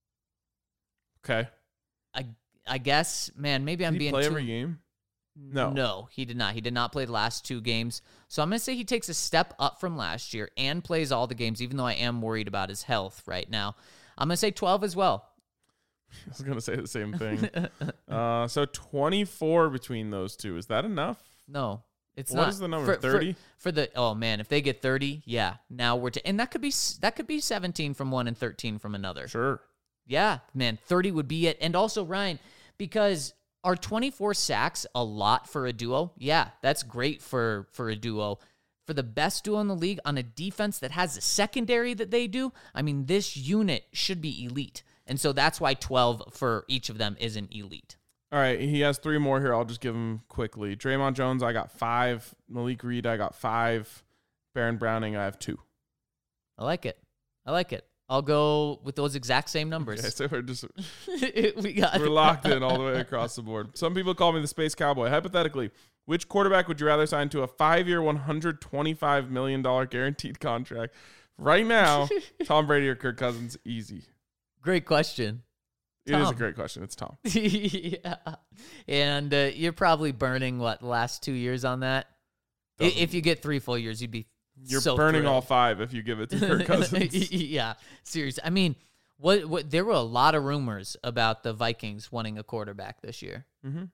Okay. I I guess, man, maybe I'm Did he being play too every game? No. No, he did not. He did not play the last two games. So I'm going to say he takes a step up from last year and plays all the games, even though I am worried about his health right now. I'm going to say twelve as well. I was gonna say the same thing. uh. So twenty-four between those two. Is that enough? No, it's What not. is the number, For- for- thirty? For, the oh man, if they get thirty, yeah. Now we're to, and that could be s- that could be seventeen from one and thirteen from another. Sure. Yeah, man, thirty would be it. And also Ryan, because are twenty-four sacks a lot for a duo? Yeah, that's great for for a duo. For the best duo in the league on a defense that has the secondary that they do, I mean, this unit should be elite. And so that's why twelve for each of them isn't elite. All right, he has three more here. I'll just give them quickly. Draymond Jones, I got five. Malik Reed, I got five. Baron Browning, I have two. I like it. I like it. I'll go with those exact same numbers. Okay, so we're just we got we're locked in all the way across the board. Some people call me the Space Cowboy. Hypothetically, which quarterback would you rather sign to a five-year, one hundred twenty-five million dollars guaranteed contract? Right now, Tom Brady or Kirk Cousins? Easy. Great question. It is a Tom. great question. It's Tom. Yeah. And uh, you're probably burning, what, the last two years on that? I- Doesn't- If you get three full years, you'd be You're so burning all thrilled. five if you give it to Kirk Cousins. Yeah, seriously. I mean, what, what? There were a lot of rumors about the Vikings wanting a quarterback this year. Mm-hmm.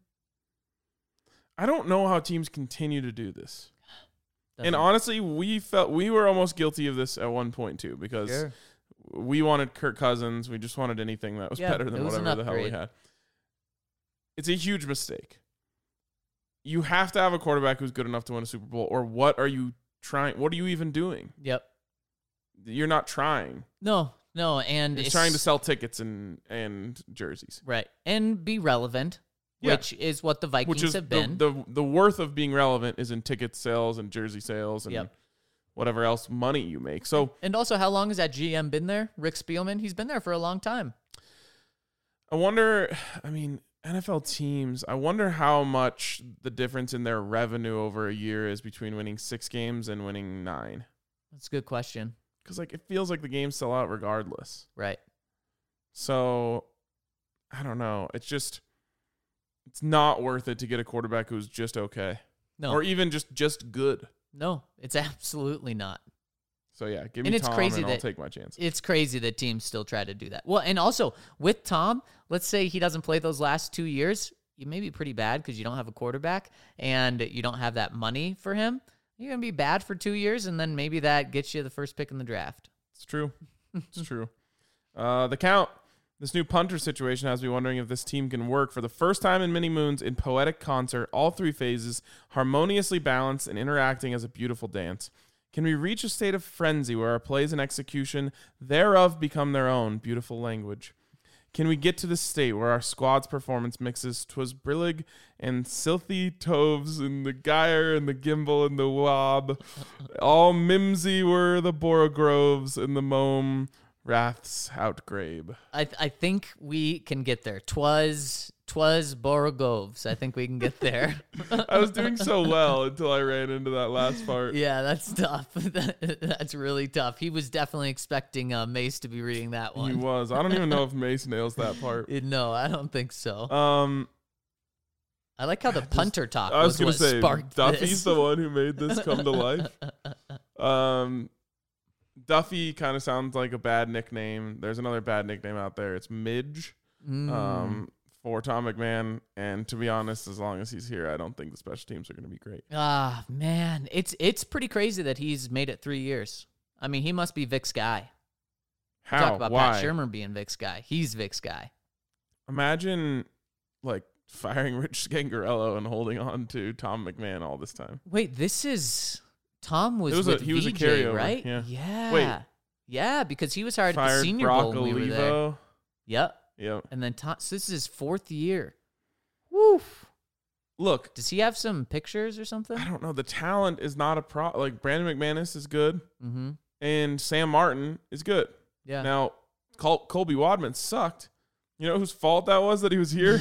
I don't know how teams continue to do this. Doesn't- And honestly, we felt we were almost guilty of this at one point too, because Sure. we wanted Kirk Cousins. We just wanted anything that was Yeah, better it than was an whatever the hell we upgrade. had. It's a huge mistake. You have to have a quarterback who's good enough to win a Super Bowl, or what are you trying? What are you even doing? Yep. You're not trying. No, No, and He's it's trying to sell tickets and and jerseys, right and be relevant, Yeah. which is what the Vikings which is have the, been. the the worth of being relevant is in ticket sales and jersey sales and Yep. whatever else money you make. So and also, how long has that G M been there? Rick Spielman. He's been there for a long time. I wonder, I mean, N F L teams, I wonder how much the difference in their revenue over a year is between winning six games and winning nine. That's a good question. Because, like, it feels like the games sell out regardless. Right. So, I don't know. It's just, it's not worth it to get a quarterback who's just okay. No. Or even just, just good. No, it's absolutely not. So, yeah, give me And it's Tom crazy and I'll that- take my chance. It's crazy that teams still try to do that. Well, and also with Tom, let's say he doesn't play those last two years. You may be pretty bad because you don't have a quarterback and you don't have that money for him. You're going to be bad for two years, and then maybe that gets you the first pick in the draft. It's true. It's true. Uh, the count. This new punter situation has me wondering if this team can work for the first time in many moons in poetic concert, all three phases, harmoniously balanced and interacting as a beautiful dance. Can we reach a state of frenzy where our plays and execution thereof become their own beautiful language? Can we get to the state where our squad's performance mixes twas brillig and silthy toves and the gyre and the gimbal and the wob, all mimsy were the borogroves and the mome wraths outgrabe. I I think we can get there. Twas twas Borogovs. I think we can get there. I was doing so well until I ran into that last part. Yeah, that's tough. That's really tough. He was definitely expecting uh, Mace to be reading that He one. was. I don't even know if Mace nails that part. Uh, No, I don't think so. Um, I like how the punter talk I was, was, gonna what say sparked Duffy's this. the one who made this come to life. Um, Duffy kind of sounds like a bad nickname. There's another bad nickname out there. It's Midge. Mm. Um, for Tom McMahon, and to be honest, as long as he's here, I don't think the special teams are going to be great. Ah, man, it's it's pretty crazy that he's made it three years. I mean, he must be Vic's guy. How? Talk about Why? Pat Shermer being Vic's guy. He's Vic's guy. Imagine like firing Rich Scangarello and holding on to Tom McMahon all this time. Wait, this is Tom was, It was a- with he was a V J, carryover, right? yeah. Yeah. Wait. Yeah, because he was hired at the Fired Senior Brock Bowl when we were there. Olivo. Yep. Yep. And then Tom, so this is his fourth year. Woof. Look, Does he have some pictures or something? I don't know. The talent is not a pro. Like Brandon McManus is good, Mm-hmm. and Sam Martin is good. Yeah. Now, Col- Colby Wadman sucked. You know whose fault that was that he was here?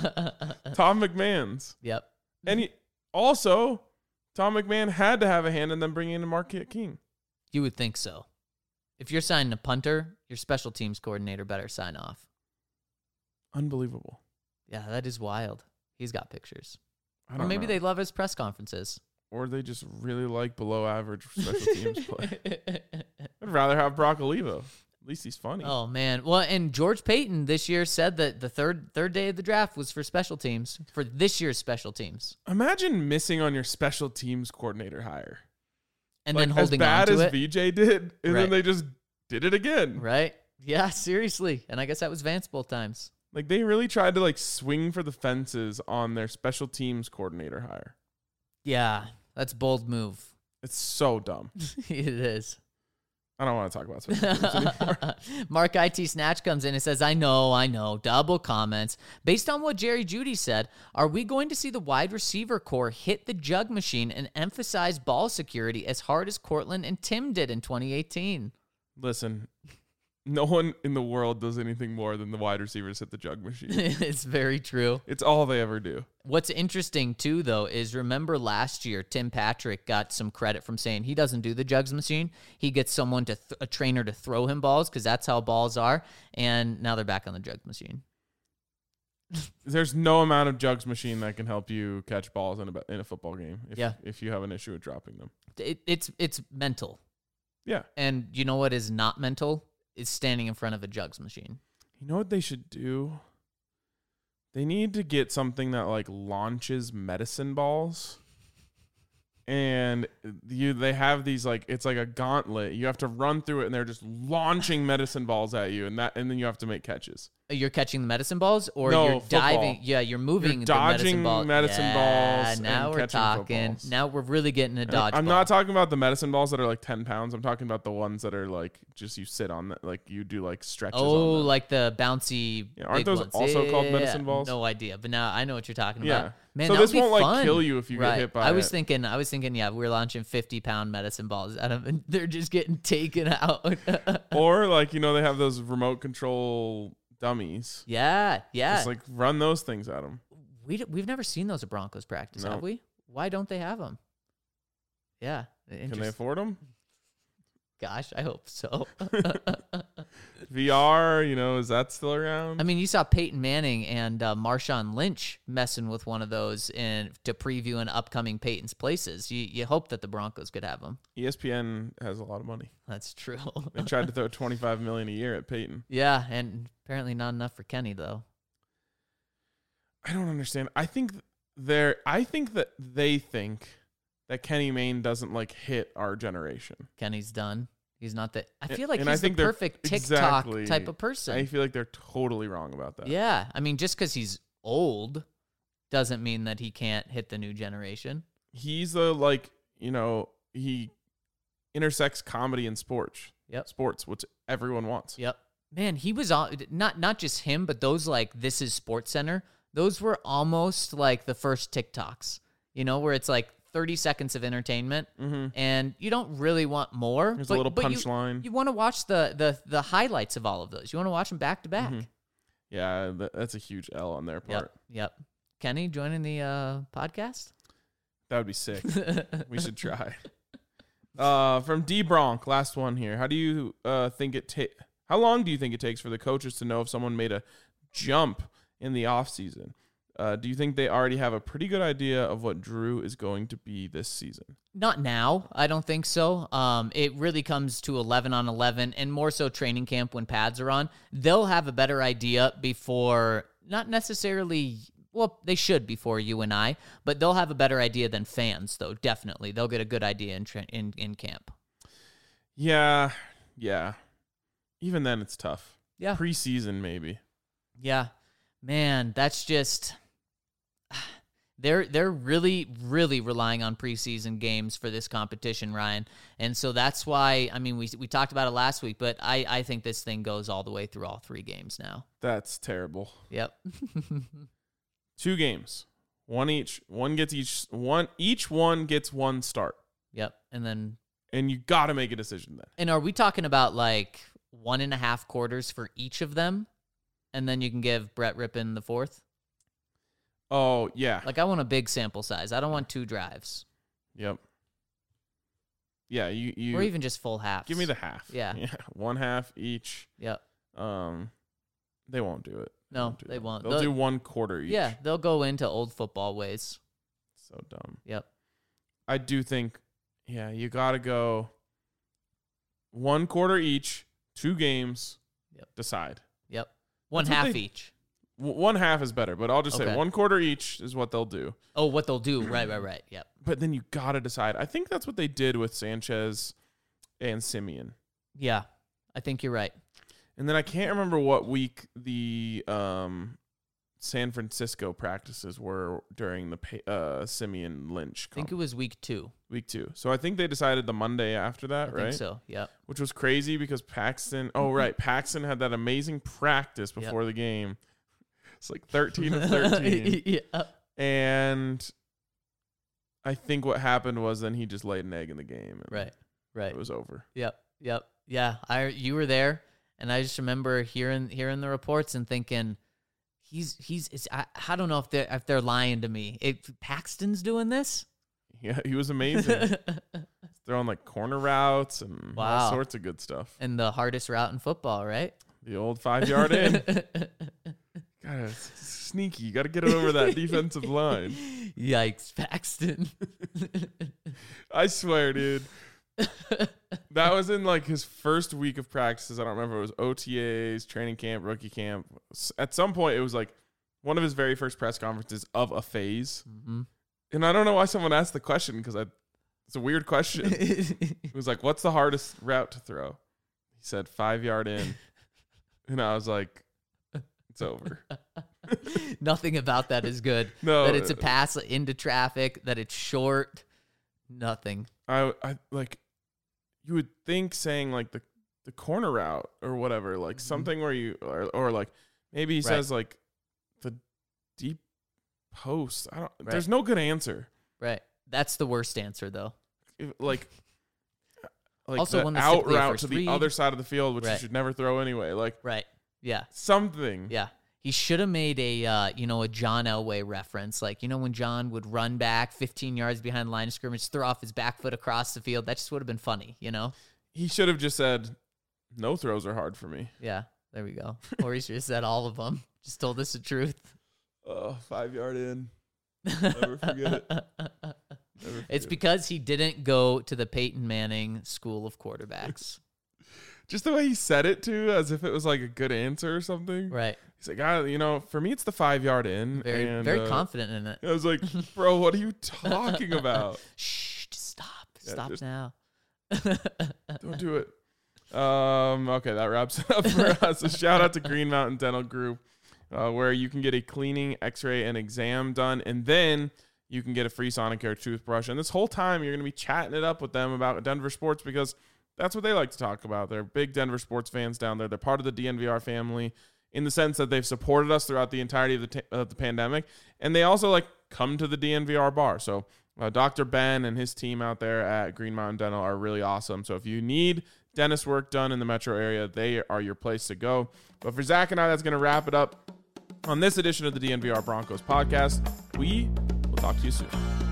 Tom McMahon's. Yep. And he, also, Tom McMahon had to have a hand in them bringing in Marquette King. You would think so. If you're signing a punter, your special teams coordinator better sign off. Unbelievable. Yeah, that is wild. He's got pictures. I Or don't maybe know. they love his press conferences. Or they just really like below average special teams play. I'd rather have Brock Olivo. At least he's funny. Oh man. Well, and George Payton this year said that the third third day of the draft was for special teams, for this year's special teams. Imagine missing on your special teams coordinator hire. And Like, then holding as bad on to as it. V J did, and Right. then they just did it again. Right? Yeah, seriously. And I guess that was Vance both times. Like they really tried to like swing for the fences on their special teams coordinator hire. Yeah, that's bold move. It's so dumb. It is. I don't want to talk about special teams anymore. Mark I T Snatch comes in and says, I know, I know, double comments. Based on what Jerry Jeudy said, are we going to see the wide receiver core hit the jug machine and emphasize ball security as hard as Cortland and Tim did in twenty eighteen? Listen, no one in the world does anything more than the wide receivers hit the jug machine. It's very true. It's all they ever do. What's interesting, too, though, is remember last year, Tim Patrick got some credit from saying he doesn't do the jugs machine. He gets someone to, th- a trainer to throw him balls because that's how balls are. And now they're back on the jugs machine. There's no amount of jugs machine that can help you catch balls in a, in a football game if, Yeah. if you have an issue with dropping them. It, it's it's mental. Yeah. And you know what is not mental? Is standing in front of a jugs machine. You know what they should do? They need to get something that like launches medicine balls. And you they have these like it's like a gauntlet. You have to run through it and they're just launching medicine balls at you and that and then you have to make catches. You're catching the medicine balls, or No, you're football. diving. Yeah, you're moving You're the medicine dodging ball. medicine yeah, balls Now and we're catching talking. footballs. Now we're really getting a And dodgeball. I'm not talking about the medicine balls that are like ten pounds. I'm talking about the ones that are like just you sit on, the, like you do like stretches. Oh, on them. like the bouncy. Yeah, aren't big those ones. also called Yeah, medicine balls? No idea, but now I know what you're talking Yeah. about. Man, So that this would be won't, like, fun. kill you if you get right. hit by I was it. thinking. I was thinking. Yeah, we're launching fifty pound medicine balls at them, and they're just getting taken out. Or like you know they have those remote control dummies. yeah, yeah. Just like run those things at them. we d- we've never seen those at Broncos practice, No. have we? Why don't they have them? Yeah. Can they interest- afford them? Gosh, I hope so. V R, you know, is that still around? I mean, you saw Peyton Manning and uh, Marshawn Lynch messing with one of those in to preview an upcoming Peyton's Places. You you hope that the Broncos could have them. E S P N has a lot of money. That's true. They tried to throw twenty-five million a year at Peyton. Yeah, and apparently not enough for Kenny though. I don't understand. I think they're. I think that they think that Kenny Mayne doesn't like hit our generation. Kenny's done. He's not that. I And- feel like and I he's think the they're perfect TikTok exactly- type of person. I feel like they're totally wrong about that. Yeah, I mean, just because he's old doesn't mean that he can't hit the new generation. He's the like you know he intersects comedy and sports. Yep. Sports, which everyone wants. Yep. Man, he was on not not just him, but those like This Is Sports Center. Those were almost like the first TikToks, you know, where it's like thirty seconds of entertainment, Mm-hmm. and you don't really want more. There's but, a little but you- punchline. You, want to watch the, the the highlights of all of those. You want to watch them back to back. Mhm. Yeah, that, that's a huge L on their part. Yep. Yep. Kenny joining the uh, podcast. That would be sick. We should try. Uh, from D Bronk, last one here. How do you uh, think it take? How long do you think it takes for the coaches to know if someone made a jump in the offseason? Uh, do you think they already have a pretty good idea of what Drew is going to be this season? Not now. I don't think so. Um, it really comes to eleven on eleven and more so training camp when pads are on. They'll have a better idea before, not necessarily, well, they should before you and I, but they'll have a better idea than fans, though, definitely. They'll get a good idea in tra- in, in camp. Yeah, yeah. Even then, it's tough. Yeah. Preseason, maybe. Yeah. Man, that's just... They're they're really, really relying on preseason games for this competition, Ryan. And so that's why, I mean, we we talked about it last week, but I, I think this thing goes all the way through all three games now. That's terrible. Yep. Two games, one each. One gets each one. Each one gets one start, Yep. And then, and you got to make a decision then. and are we talking about like one and a half quarters for each of them? And then you can give Brett Rippon the fourth? Oh yeah. Like, I want a big sample size. I don't want two drives. Yep. Yeah, you you Or even just full halves. give me the half. Yeah. Yeah, one half each. Yep. Um, they won't do it. No, do they that. won't. They'll They'll- do one quarter each. Yeah, they'll go into old football ways. So dumb. Yep. I do think. Yeah, you got to go. One quarter each, two games. Yep. Decide. Yep. One That's what half they- each. W- one half is better, but I'll just say Okay. one quarter each is what they'll do. Oh, what they'll do. Right, right, right. Yep. But then you got to decide. I think that's what they did with Sanchez and Simeon. Yeah. I think you're right. And then I can't remember what week the um, San Francisco practices were during the pa- uh, Simeon Lynch I think comp- it was week two. week two. So I think they decided the Monday after that, I right? think so. Yep. Which was crazy because Paxton. Oh, right, Paxton had that amazing practice Yep. before the game. It's like thirteen to thirteen, yeah. and I think what happened was then he just laid an egg in the game. And Right. Right. It was over. Yep. Yep. Yeah. I you were there, and I just remember hearing hearing the reports and thinking, he's he's. It's, I, I don't know if they're if they're lying to me. If Paxton's doing this. Yeah, he was amazing. Throwing like corner routes and Wow. all sorts of good stuff. And the hardest route in football, right? The old five yard in. God, it's sneaky. You got to get it over that defensive line. Yikes, Paxton. I swear, dude. That was in like his first week of practices. I don't remember. It was O T As, training camp, rookie camp. S- At some point, it was like one of his very first press conferences of a phase. Mm-hmm. And I don't know why someone asked the question because I, it's a weird question. It was like, what's the hardest route to throw? He said five yard in. And I was like, It's over. Nothing about that is good. No. That it's a pass into traffic, that it's short. Nothing. I, I like, you would think saying like the, the corner route or whatever, like Mhm. something where you, or, or like maybe he Right. says like the deep post. I don't, Right. there's no good answer. Right. That's the worst answer, though. If- Like, like Also, the one that's out typically a route first to the read. other side of the field, which you Right. should never throw anyway. Like Right. Yeah. something. Yeah. He should have made a, uh, you know, a John Elway reference. Like, you know, when John would run back fifteen yards behind the line of scrimmage, throw off his back foot across the field. That just would have been funny, you know? He should have just said, no throws are hard for me. Yeah. There we go. Or he should have said all of them. Just told us the truth. Oh, five yard in. Never forget it. Never It's forget because he didn't go to the Peyton Manning School of Quarterbacks. it. Just the way he said it too, as if it was like a good answer or something. Right. He's like, ah, you know, for me it's the five yard in. Very, and, very uh, confident in it. I was like, bro, what are you talking about? Shh, just stop. Yeah, Stop just- now. Don't do it. Um, okay, that wraps it up for us. A shout out to Green Mountain Dental Group, uh, where you can get a cleaning, x-ray, and exam done, and then you can get a free Sonicare toothbrush. And this whole time, you're going to be chatting it up with them about Denver sports because that's what they like to talk about. They're big Denver sports fans down there. They're part of the D N V R family in the sense that they've supported us throughout the entirety of the, t- of the pandemic, and they also like come to the D N V R bar. So uh, Doctor Ben and his team out there at Green Mountain Dental are really awesome. So if you need dentist work done in the metro area, they are your place to go. But for Zach and I, that's going to wrap it up on this edition of the D N V R Broncos podcast. We will talk to you soon.